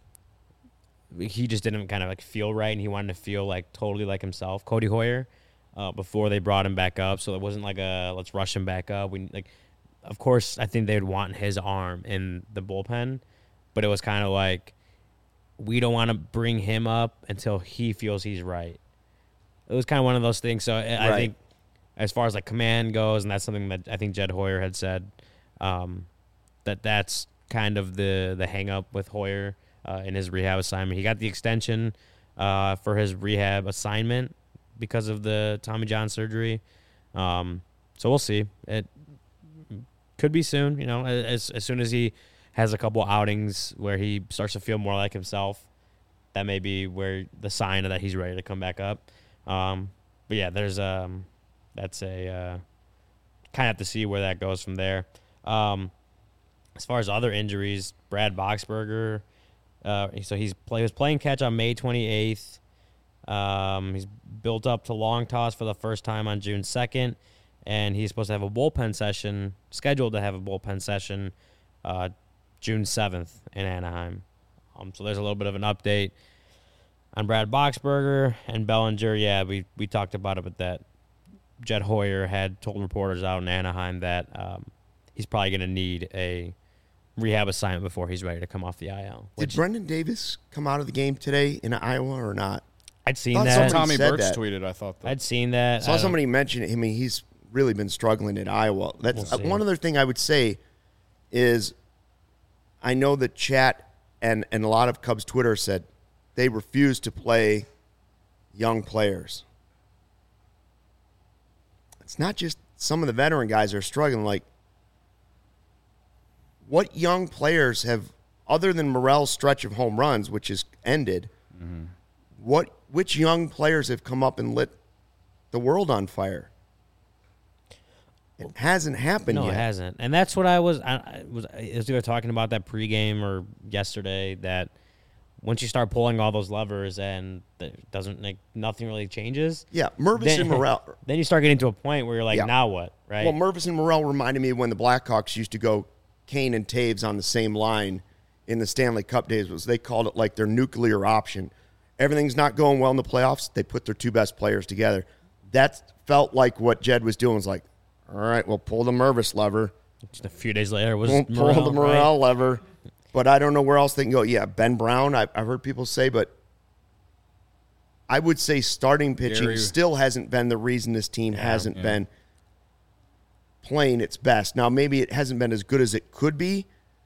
he just didn't kind of like feel right, and he wanted to feel like totally like himself, Cody Hoyer, uh, before they brought him back up. So it wasn't like a let's rush him back up. We like, of course, I think they'd want his arm in the bullpen, but it was kind of like we don't want to bring him up until he feels he's right. It was kind of one of those things. So I I Right. think as far as like command goes, and that's something that I think Jed Hoyer had said. Um, that that's kind of the the hang up with Hoyer uh, in his rehab assignment. He got the extension uh, for his rehab assignment because of the Tommy John surgery. Um, so we'll see. It could be soon, you know, as as soon as he has a couple outings where he starts to feel more like himself. That may be where the sign that he's ready to come back up. Um, but yeah, there's um, that's a uh, kind of have to see where that goes from there. Um, As far as other injuries, Brad Boxberger, uh, so he's play, was playing catch on May twenty-eighth. Um, he's built up to long toss for the first time on June second, and he's supposed to have a bullpen session, scheduled to have a bullpen session uh, June seventh in Anaheim. Um, so there's a little bit of an update on Brad Boxberger and Bellinger. Yeah, we, we talked about it, but that Jed Hoyer had told reporters out in Anaheim that um, he's probably going to need a rehab assignment before he's ready to come off the I L. did Brendan Davis come out of the game today in Iowa or not? I'd seen Thought that. somebody Tommy said Birch that. tweeted, I thought that. I'd seen that. I saw I don't- somebody mention it. I mean, he's really been struggling at Iowa. That's We'll uh, see. one other thing I would say is I know that chat and, and a lot of Cubs Twitter said they refuse to play young players. It's not just some of the veteran guys are struggling. Like, what young players have, other than Morel's stretch of home runs, which is ended, Mm-hmm. what which young players have come up and lit the world on fire? It hasn't happened No, yet. it hasn't. And that's what I was. I, I was. As we were talking about that pregame or yesterday, that once you start pulling all those levers and it doesn't like nothing really changes. Yeah, Mervis then, and Morel. Then you start getting to a point where you're like, Yeah. now what, right? Well, Mervis and Morel reminded me of when the Blackhawks used to go Kane and Taves on the same line in the Stanley Cup days. Was they called it like their nuclear option. Everything's not going well in the playoffs. They put their two best players together. That felt like what Jed was doing. Was like, all right, we'll pull the Mervis lever. Just a few days later, it was We'll Morel, pull the Morel right? lever. But I don't know where else they can go. Yeah, Ben Brown, I, I've heard people say, but I would say starting pitching Gary- still hasn't been the reason this team hasn't yeah. been playing its best. Now, maybe it hasn't been as good as it could be,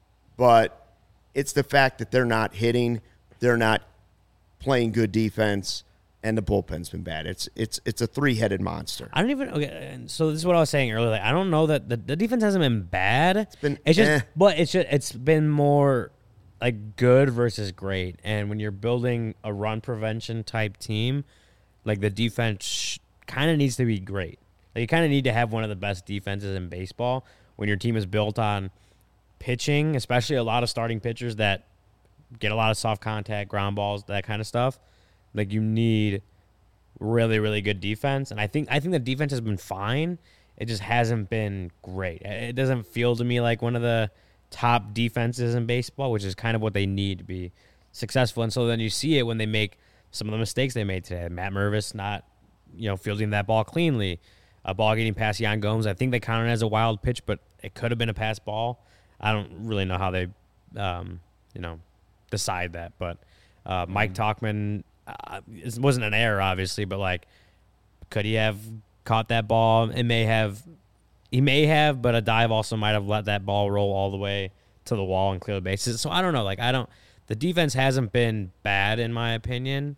but it's the fact that they're not hitting, they're not playing good defense, and the bullpen's been bad. It's it's it's a three-headed monster. I don't even. Okay, and so this is what I was saying earlier. Like, I don't know that the, the defense hasn't been bad. It's been It's just, eh. but it's just it's been more like good versus great. And when you're building a run prevention type team, like the defense kind of needs to be great. Like you kind of need to have one of the best defenses in baseball when your team is built on pitching, especially a lot of starting pitchers that get a lot of soft contact, ground balls, that kind of stuff. Like you need really, really good defense, and I think I think the defense has been fine. It just hasn't been great. It doesn't feel to me like one of the top defenses in baseball, which is kind of what they need to be successful. And so then you see it when they make some of the mistakes they made today. Matt Mervis not, you know, fielding that ball cleanly, a ball getting past Jan Gomes. I think they counted it as a wild pitch, but it could have been a pass ball. I don't really know how they, um, you know, decide that. But uh, Mike Tauchman. Uh, it wasn't an error, obviously, but like, could he have caught that ball? It may have, he may have, but a dive also might have let that ball roll all the way to the wall and clear the bases. So I don't know. Like, I don't, the defense hasn't been bad in my opinion,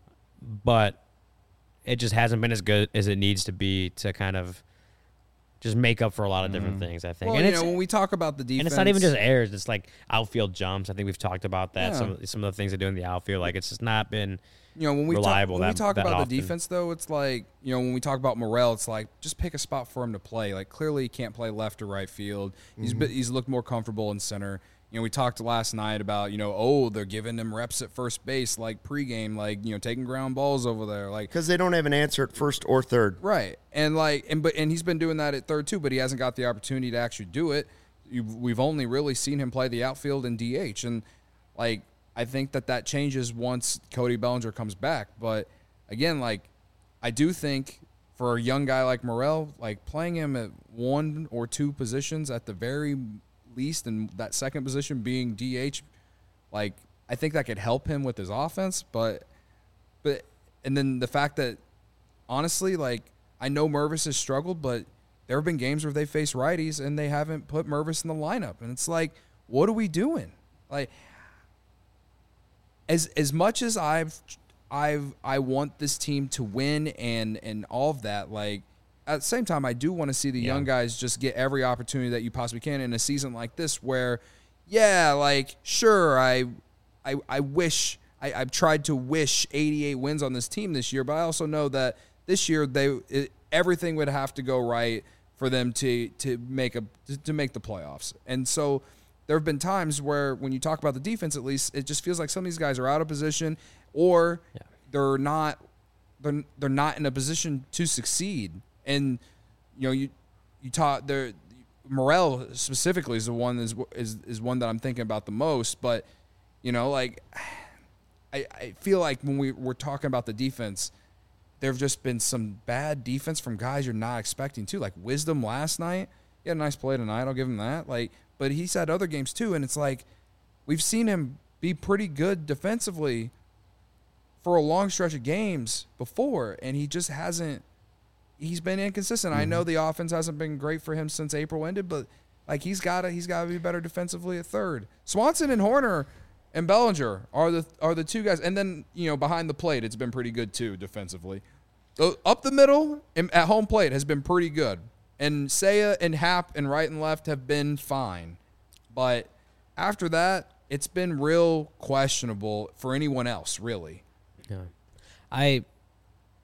but it just hasn't been as good as it needs to be to kind of just make up for a lot of different things, I think. Well, and you it's, know, when we talk about the defense, and it's not even just errors. It's like outfield jumps. I think we've talked about that. Yeah. Some some of the things they do in the outfield, like it's just not been. you know, when we reliable talk, when we that- talk that about often. the defense, though, it's like, you know, when we talk about Morel, it's like just pick a spot for him to play. Like clearly, he can't play left or right field. He's Mm-hmm. been, he's looked more comfortable in center. You know, we talked last night about, you know, oh, they're giving him reps at first base, like pregame, like, you know, taking ground balls over there, like. Because they don't have an answer at first or third. Right, and like, and but and he's been doing that at third too, but he hasn't got the opportunity to actually do it. You've, we've only really seen him play the outfield and D H, and like I think that that changes once Cody Bellinger comes back. But again, like I do think for a young guy like Morel, like playing him at one or two positions at the very least, and that second position being D H, like I think that could help him with his offense. But but and then the fact that honestly, like I know Mervis has struggled, but there have been games where they face righties and they haven't put Mervis in the lineup, and it's like, what are we doing? Like, as as much as I've I've I want this team to win and and all of that, like at the same time, I do want to see the Yeah. young guys just get every opportunity that you possibly can in a season like this, where, yeah, like sure, I I I wish. I, I've tried to wish eighty-eight wins on this team this year, but I also know that this year they it, everything would have to go right for them to to make a to make the playoffs. And so there have been times where when you talk about the defense, at least it just feels like some of these guys are out of position, or Yeah. they're not they're they're not in a position to succeed. And you know you you taught there Morel specifically is the one is is is one that I'm thinking about the most, but you know like. I, I feel like when we we're talking about the defense, there have just been some bad defense from guys you're not expecting too. Like Wisdom last night, he had a nice play tonight. I'll give him that. Like, but he's had other games too, and it's like we've seen him be pretty good defensively for a long stretch of games before, and he just hasn't. He's been inconsistent. Mm-hmm. I know the offense hasn't been great for him since April ended, but like he's got to he's got to be better defensively at third. Swanson and Horner and Bellinger are the are the two guys, and then you know behind the plate, it's been pretty good too defensively. So up the middle and at home plate has been pretty good, and Seiya and Happ and right and left have been fine, but after that, it's been real questionable for anyone else, really. Yeah, I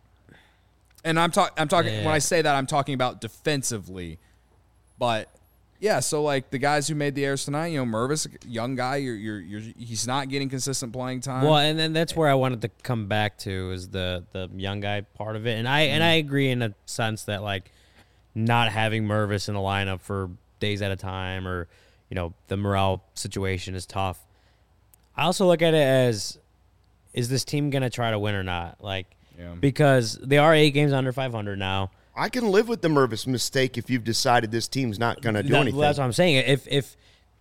And I'm talking I'm talking Yeah. when I say that I'm talking about defensively, but Yeah, so like the guys who made the airs tonight, you know, Mervis, young guy, you're, you're, you're, he's not getting consistent playing time. Well, and then that's where I wanted to come back to is the the young guy part of it, and I mm-hmm. and I agree in a sense that like not having Mervis in the lineup for days at a time, or you know, the morale situation is tough. I also look at it as, is this team gonna try to win or not? Like, yeah. because they are eight games under five hundred now. I can live with the Mervis mistake if you've decided this team's not going to do that, anything. Well, that's what I'm saying. If, if,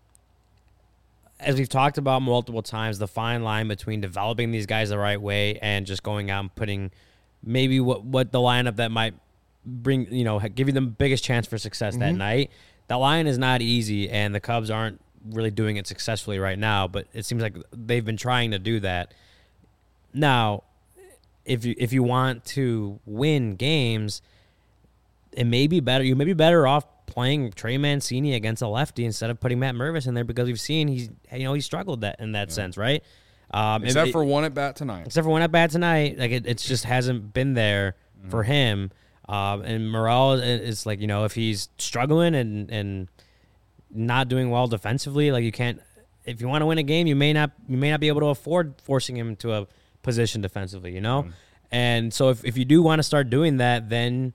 as we've talked about multiple times, the fine line between developing these guys the right way and just going out and putting maybe what, what the lineup that might bring, you know, give you the biggest chance for success mm-hmm. that night, that line is not easy, and the Cubs aren't really doing it successfully right now, but it seems like they've been trying to do that. Now, if you if you want to win games, it may be better. You may be better off playing Trey Mancini against a lefty instead of putting Matt Mervis in there, because we've seen he's you know he struggled that in that yeah. sense, right? Um, except it, for one at bat tonight. Except for one at bat tonight, like it, it just hasn't been there mm-hmm. for him. Um, and Morel is like you know if he's struggling and and not doing well defensively, like you can't. If you want to win a game, you may not you may not be able to afford forcing him to a position defensively, you know. Mm-hmm. And so if if you do want to start doing that, then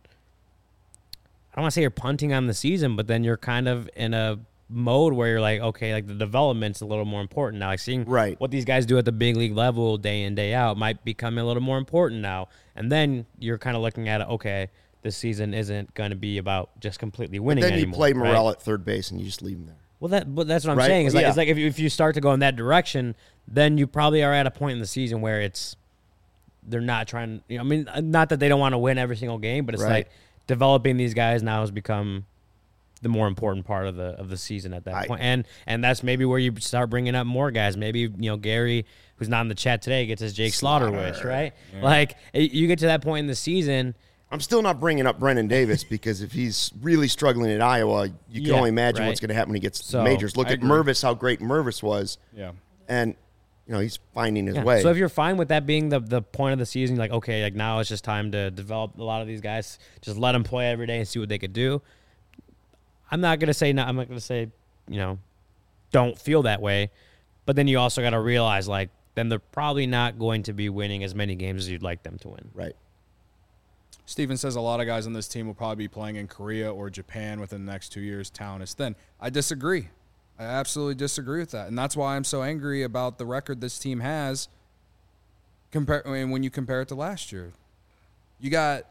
I don't want to say you're punting on the season, but then you're kind of in a mode where you're like, okay, like the development's a little more important now. Like seeing right. what these guys do at the big league level day in, day out might become a little more important now. And then you're kind of looking at it, okay, this season isn't going to be about just completely winning but then anymore. you play Morel right? at third base and you just leave him there. Well, that but that's what I'm right? saying. It's like, yeah. it's like if you, if you start to go in that direction, then you probably are at a point in the season where it's they're not trying. You know, I mean, not that they don't want to win every single game, but it's right. like developing these guys now has become the more important part of the of the season at that I, point. And and that's maybe where you start bringing up more guys. Maybe you know Gary, who's not in the chat today, gets his Jake Slaughter, Slaughter wish, right? Yeah. Like you get to that point in the season. I'm still not bringing up Brennan Davis because if he's really struggling in Iowa, you can yeah, only imagine right. what's going to happen when he gets so, to the majors. Look I at agree. Mervis, how great Mervis was. Yeah. And, you know, he's finding his yeah. way. So if you're fine with that being the, the point of the season, like, okay, like now it's just time to develop a lot of these guys, just let them play every day and see what they could do. I'm not going to say, no, I'm not going to say, you know, don't feel that way. But then you also got to realize, like, then they're probably not going to be winning as many games as you'd like them to win. Right. Steven says a lot of guys on this team will probably be playing in Korea or Japan within the next two years. Talent is thin. I disagree. I absolutely disagree with that. And that's why I'm so angry about the record this team has compare, I mean, when you compare it to last year. You got,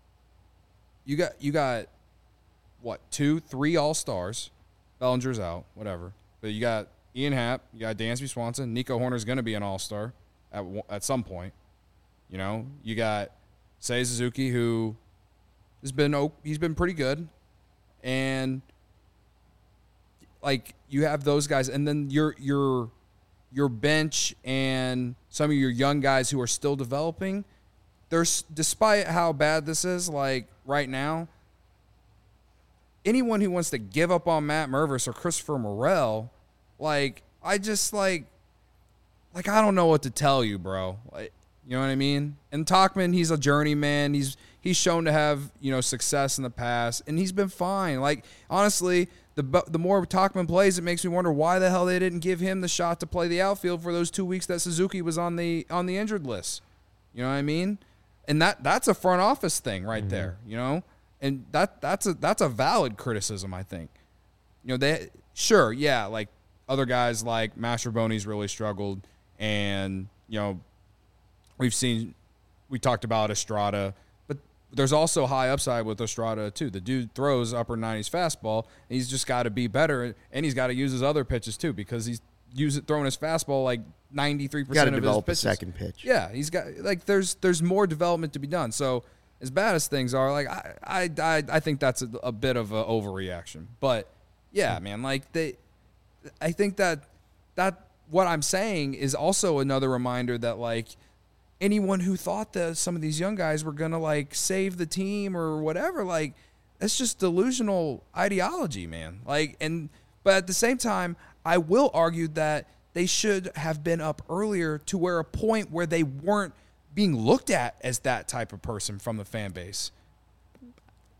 you got, you got, what, two, three All-Stars. Bellinger's out, whatever. But you got Ian Happ, you got Dansby Swanson. Nico Horner's going to be an All-Star at at some point. You know, you got Seiya Suzuki, who has been oh, he's been pretty good, and like you have those guys, and then your your your bench and some of your young guys who are still developing. There's despite how bad this is, like right now, anyone who wants to give up on Matt Mervis or Christopher Morel, like I just like like I don't know what to tell you, bro. Like, you know what I mean? And Tauchman, he's a journeyman. He's he's shown to have, you know, success in the past, and he's been fine. Like, honestly, the the more Tauchman plays, it makes me wonder why the hell they didn't give him the shot to play the outfield for those two weeks that Suzuki was on the on the injured list. You know what I mean? And that that's a front office thing right mm-hmm. there, you know? And that that's a that's a valid criticism, I think. You know, they sure, yeah, like other guys like Mastrobuoni's really struggled, and, you know, we've seen, we talked about Estrada, but there's also high upside with Estrada too. The dude throws upper nineties fastball, and he's just got to be better, and he's got to use his other pitches too, because he's using throwing his fastball like ninety-three percent of his pitches. Got to develop a second pitch. Yeah, he's got like there's there's more development to be done. So as bad as things are, like I I I, I think that's a, a bit of an overreaction. But yeah, man, like they, I think that that what I'm saying is also another reminder that like. Anyone who thought that some of these young guys were going to, like, save the team or whatever, like, that's just delusional ideology, man. Like, and, but at the same time, I will argue that they should have been up earlier to where a point where they weren't being looked at as that type of person from the fan base.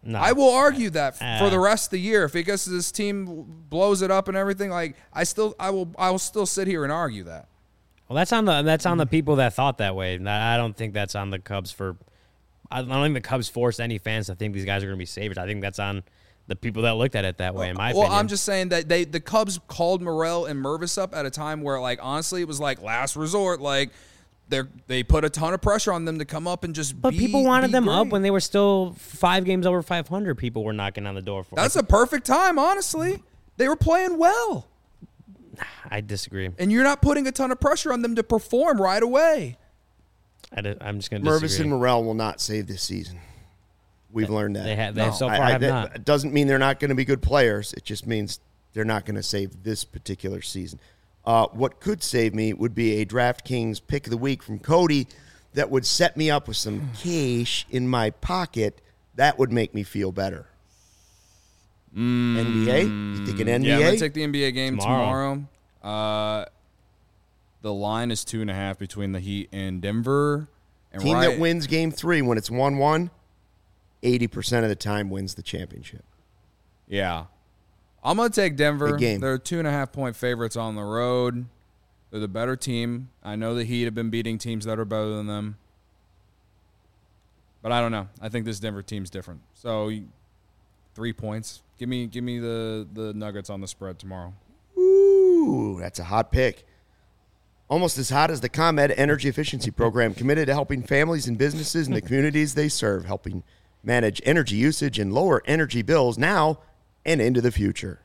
No. I will argue that f- for Uh, the rest of the year. If because this team blows it up and everything, like I still, I will, I will still sit here and argue that. Well, that's on the that's on the people that thought that way. I don't think that's on the Cubs for. I don't think the Cubs forced any fans to think these guys are going to be savers. I think that's on the people that looked at it that way. In my well, opinion. I'm just saying that they the Cubs called Morel and Mervis up at a time where, like, honestly, it was like last resort. Like, they they put a ton of pressure on them to come up and just. But be, people wanted be them great. up when they were still five games over five hundred. People were knocking on the door for. That's a perfect time, honestly. They were playing well, I disagree. and you're not putting a ton of pressure on them to perform right away. I di- I'm just going to Mervis disagree. and Morel will not save this season. We've learned that. They have. They No. so I- far I- have that not. doesn't mean they're not going to be good players. It just means they're not going to save this particular season. Uh, what could save me would be a DraftKings pick of the week from Cody that would set me up with some cash in my pocket. That would make me feel better. Mm. N B A? You think an N B A? Yeah, I'm gonna take the N B A game Tomorrow. tomorrow. Uh, the line is two and a half between the Heat and Denver. And Team right, that wins game three when it's one one, eighty percent of the time wins the championship. Yeah. I'm going to take Denver. Big game. They're two and a half point favorites on the road. They're the better team. I know the Heat have been beating teams that are better than them. But I don't know. I think this Denver team's different. So you- three points. Give me give me the, the Nuggets on the spread tomorrow. Ooh, that's a hot pick. Almost as hot as the ComEd Energy Efficiency Program, committed to helping families and businesses in the communities they serve, helping manage energy usage and lower energy bills now and into the future.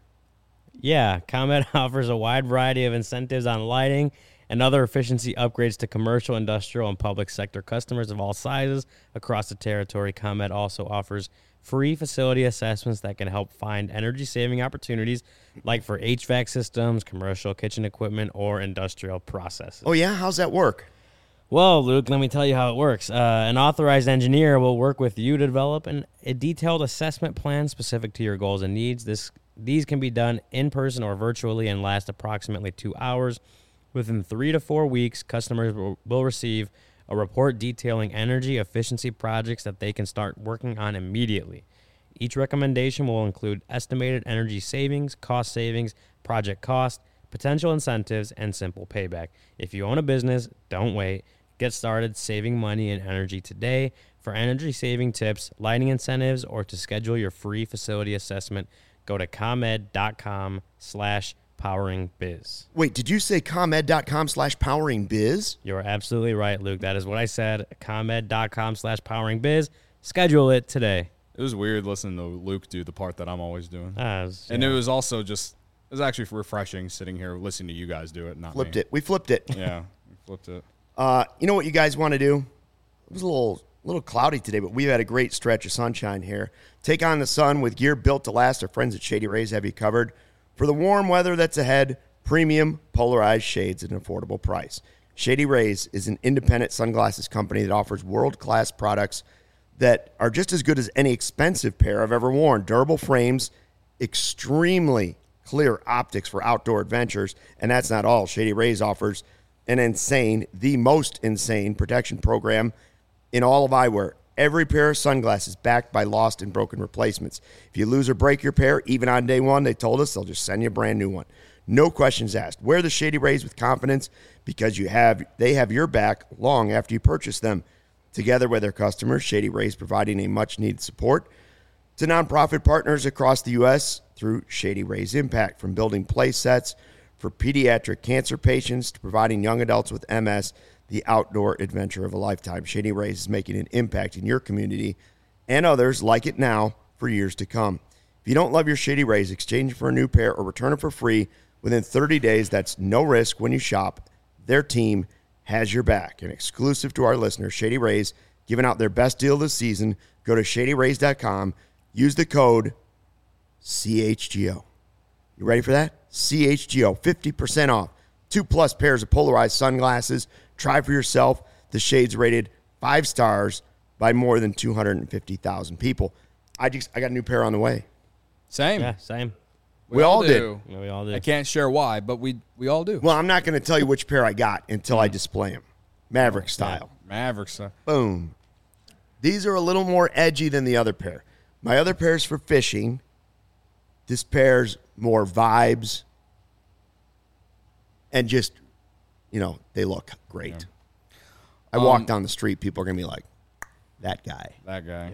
Yeah, ComEd offers a wide variety of incentives on lighting and other efficiency upgrades to commercial, industrial, and public sector customers of all sizes across the territory. ComEd also offers free facility assessments that can help find energy-saving opportunities like for H V A C systems, commercial kitchen equipment, or industrial processes. Oh, yeah? How's that work? Well, Luke, let me tell you how it works. Uh, an authorized engineer will work with you to develop an, a detailed assessment plan specific to your goals and needs. This These can be done in person or virtually and last approximately two hours. Within three to four weeks, customers will, will receive a report detailing energy efficiency projects that they can start working on immediately. Each recommendation will include estimated energy savings, cost savings, project cost, potential incentives, and simple payback. If you own a business, don't wait. Get started saving money and energy today. For energy saving tips, lighting incentives, or to schedule your free facility assessment, go to ComEd.com slash powering biz. Wait, did you say ComEd.com slash powering biz? You're absolutely right, Luke. That is what I said. ComEd.com slash powering biz. Schedule it today. It was weird listening to Luke do the part that I'm always doing. Ah, it was, And yeah. it was also just, it was actually refreshing sitting here listening to you guys do it, not Flipped me. it. We flipped it. Yeah, we flipped it. Uh, you know what you guys want to do? It was a little little cloudy today, but we've had a great stretch of sunshine here. Take on the sun with gear built to last. Our friends at Shady Rays have you covered. For the warm weather that's ahead, premium polarized shades at an affordable price. Shady Rays is an independent sunglasses company that offers world-class products that are just as good as any expensive pair I've ever worn. Durable frames, extremely clear optics for outdoor adventures, and that's not all. Shady Rays offers an insane, the most insane protection program in all of eyewear. Every pair of sunglasses backed by lost and broken replacements. If you lose or break your pair, even on day one, they told us they'll just send you a brand new one. No questions asked. Wear the Shady Rays with confidence because you have they have your back long after you purchase them. Together with their customers, Shady Rays providing a much-needed support to nonprofit partners across the U S through Shady Rays Impact, from building play sets for pediatric cancer patients to providing young adults with M S the outdoor adventure of a lifetime. Shady Rays is making an impact in your community and others like it now for years to come. If you don't love your Shady Rays, exchange it for a new pair or return it for free within thirty days. That's no risk when you shop. Their team has your back. And exclusive to our listeners, Shady Rays giving out their best deal this season. Go to shady rays dot com. Use the code C H G O. You ready for that? C H G O, fifty percent off. Two plus pairs of polarized sunglasses. Try for yourself. The shades rated five stars by more than two hundred fifty thousand people. I just I got a new pair on the way. Same. Yeah, same. We all did. Yeah, we all did. I can't share why, but we we all do. Well, I'm not going to tell you which pair I got until I display them. Maverick style. Mavericks. Uh, Boom. These are a little more edgy than the other pair. My other pairs for fishing, this pair's more vibes and just, you know, they look great. Yeah. I walk Um, down the street, people are going to be like, that guy. That guy.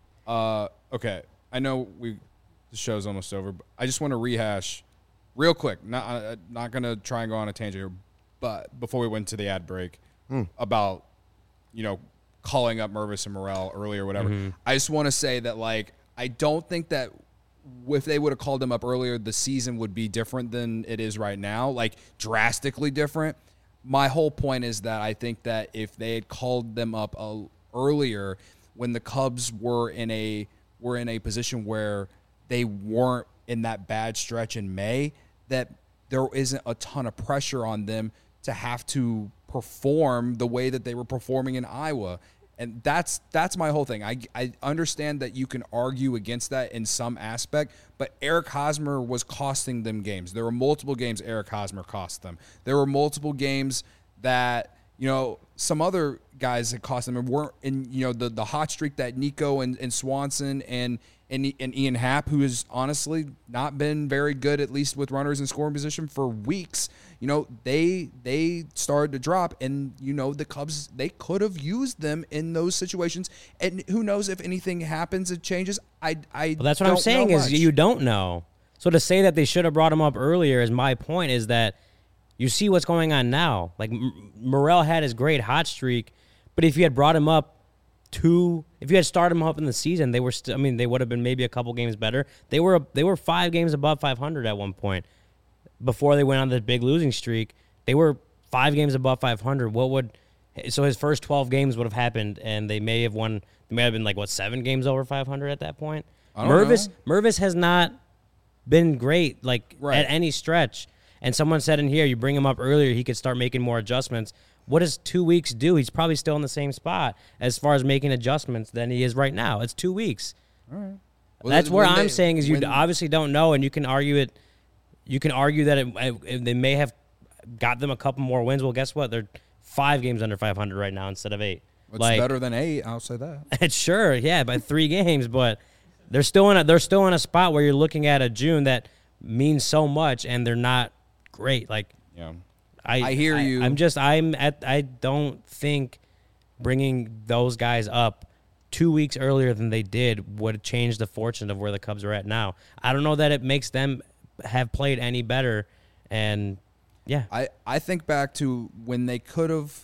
Uh, okay. I know we the show's almost over, but I just want to rehash real quick. Not uh, not going to try and go on a tangent here, but before we went to the ad break about, you know, calling up Mervis and Morrell earlier or whatever. Mm-hmm. I just want to say that, like, I don't think that if they would have called them up earlier, the season would be different than it is right now, like drastically different. My whole point is that I think that if they had called them up uh, earlier, when the Cubs were in a were in a position where they weren't in that bad stretch in May, that there isn't a ton of pressure on them to have to perform the way that they were performing in Iowa. And that's that's my whole thing. I, I understand that you can argue against that in some aspect, but Eric Hosmer was costing them games. There were multiple games Eric Hosmer cost them. There were multiple games that, you know, some other guys that cost them and weren't in, you know, the, the hot streak that Nico and, and Swanson and, and and Ian Happ, who has honestly not been very good, at least with runners in scoring position for weeks. You know, they they started to drop, and, you know, the Cubs, they could have used them in those situations. And who knows if anything happens, it changes. I, I Well, that's what don't I'm saying know is much. you don't know. So to say that they should have brought him up earlier is my point, is that you see what's going on now. Like, M- Morrell had his great hot streak, but if you had brought him up two, if you had started him up in the season, they were still, I mean, they would have been maybe a couple games better. They were they were five games above five hundred at one point. Before they went on this big losing streak, they were five games above five hundred. What would so his first twelve games would have happened, and they may have won. They may have been like what seven games over five hundred at that point. I don't Mervis know. Mervis has not been great like Right. at any stretch. And someone said in here, you bring him up earlier, he could start making more adjustments. What does two weeks do? He's probably still in the same spot as far as making adjustments than he is right now. It's two weeks. All right. Well, That's where when I'm they- saying is you when- obviously don't know, and you can argue it. You can argue that it, it, they may have got them a couple more wins. Well, guess what? They're five games under five hundred right now instead of eight. It's like, better than eight, I'll say that. It's sure, yeah, by three games, but they're still in a they're still in a spot where you're looking at a June that means so much, and they're not great. Like, Yeah. I, I hear you. I'm just I'm at I don't think bringing those guys up two weeks earlier than they did would change the fortune of where the Cubs are at now. I don't know that it makes them have played any better, and yeah, I, I think back to when they could have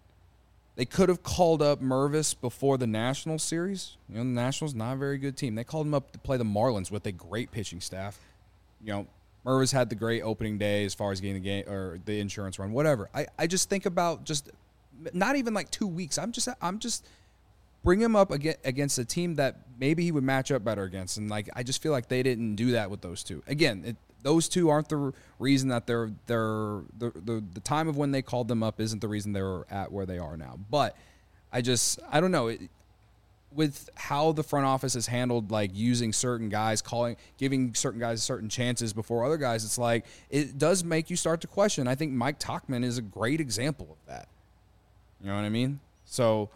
they could have called up Mervis before the Nationals series. You know, the Nationals not a very good team. They called him up to play the Marlins with a great pitching staff. You know, Mervis had the great opening day as far as getting the game or the insurance run, whatever. I, I just think about just not even like two weeks. I'm just I'm just bring him up against, against a team that maybe he would match up better against, and like I just feel like they didn't do that with those two. Again, it, those two aren't the reason that they're they're the, the the time of when they called them up isn't the reason they're at where they are now. But I just I don't know. It, with how the front office has handled like using certain guys, calling, giving certain guys certain chances before other guys, it's like it does make you start to question. I think Mike Tauchman is a great example of that. You know what I mean? So,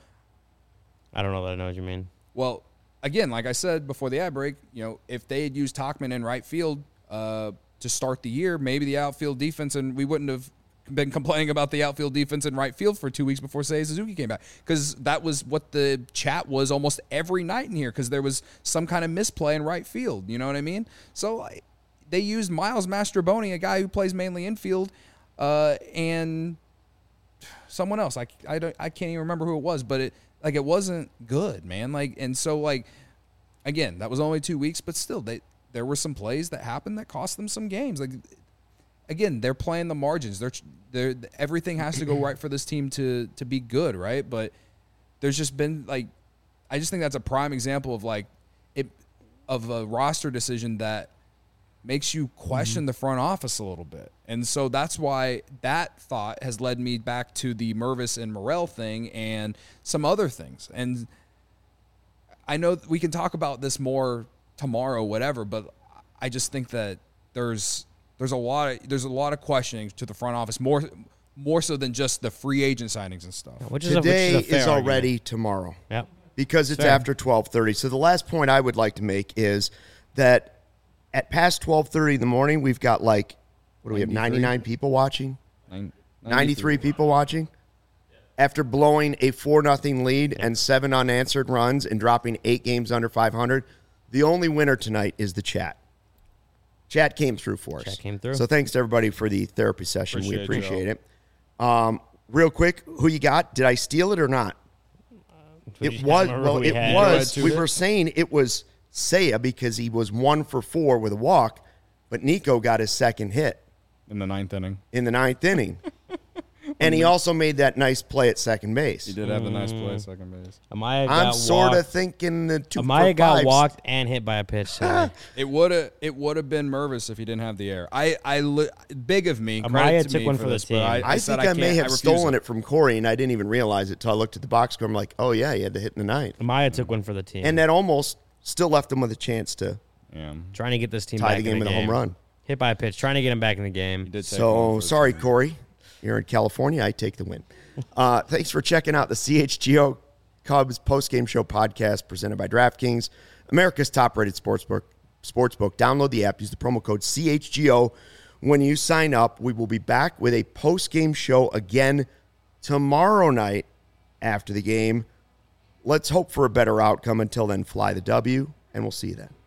I don't know that I know what you mean. well, again, like I said before the ad break, you know, if they had used Tauchman in right field uh, to start the year, maybe the outfield defense, and we wouldn't have been complaining about the outfield defense in right field for two weeks before Seiya Suzuki came back, because that was what the chat was almost every night in here, because there was some kind of misplay in right field. You know what I mean? So like, they used Miles Mastroboni, a guy who plays mainly infield, uh, and someone else. I, I, don't, I can't even remember who it was, but it like it wasn't good, man. Like, and so like again, that was only two weeks, but still, they there were some plays that happened that cost them some games. Like, again, they're playing the margins. They're, they're everything has to go right for this team to to be good, right? But there's just been like, I just think that's a prime example of like it of a roster decision that makes you question mm-hmm. the front office a little bit. And so that's why that thought has led me back to the Mervis and Morrell thing and some other things. And I know we can talk about this more tomorrow, whatever, but I just think that there's there's a lot of there's a lot of questioning to the front office, more more so than just the free agent signings and stuff. Which is a, which Today is, a fair is already argument. tomorrow. Yep. because it's Fair. after twelve thirty. So the last point I would like to make is that at past twelve thirty in the morning, we've got like, what do we have, ninety-three ninety-nine people watching? Nine- ninety-three people watching? After blowing a four nothing lead and seven unanswered runs and dropping eight games under five hundred, the only winner tonight is the chat. Chat came through for us. Chat came through. So thanks to everybody for the therapy session. we Appreciate appreciate you. it. Um, real quick, who you got? Did I steal it or not? It just was, remember well, who we it had. was, Red we two. were saying it was Seiya because he was one for four with a walk, but Nico got his second hit in the ninth inning. in the ninth inning. And he also made that nice play at second base. He did have the nice play at second base. Amaya got I'm sort of walked. thinking the two Amaya for got fives. walked and hit by a pitch. today. It would have it would have been Mervis if he didn't have the air. I I li- big of me. Amaya credit to took me one for, for the this, team. But I, I, I said think I, I may can't- have I refuse stolen it. from Corey, and I didn't even realize it until I looked at the box score. I'm like, oh, yeah, he had the hit in the ninth. Amaya took one for the team. And that almost still left him with a chance to Yeah, trying to get this team tie back the game in with the a home run. Hit by a pitch, trying to get him back in the game. he did. Take one So, for the sorry, team. Corey. You're in California. I take the win. Uh, thanks for checking out the C H G O Cubs postgame show podcast presented by DraftKings, America's top-rated sportsbook. Sportsbook. Download the app. Use the promo code C H G O when you sign up. We will be back with a postgame show again tomorrow night after the game. Let's hope for a better outcome. Until then, fly the W, and we'll see you then.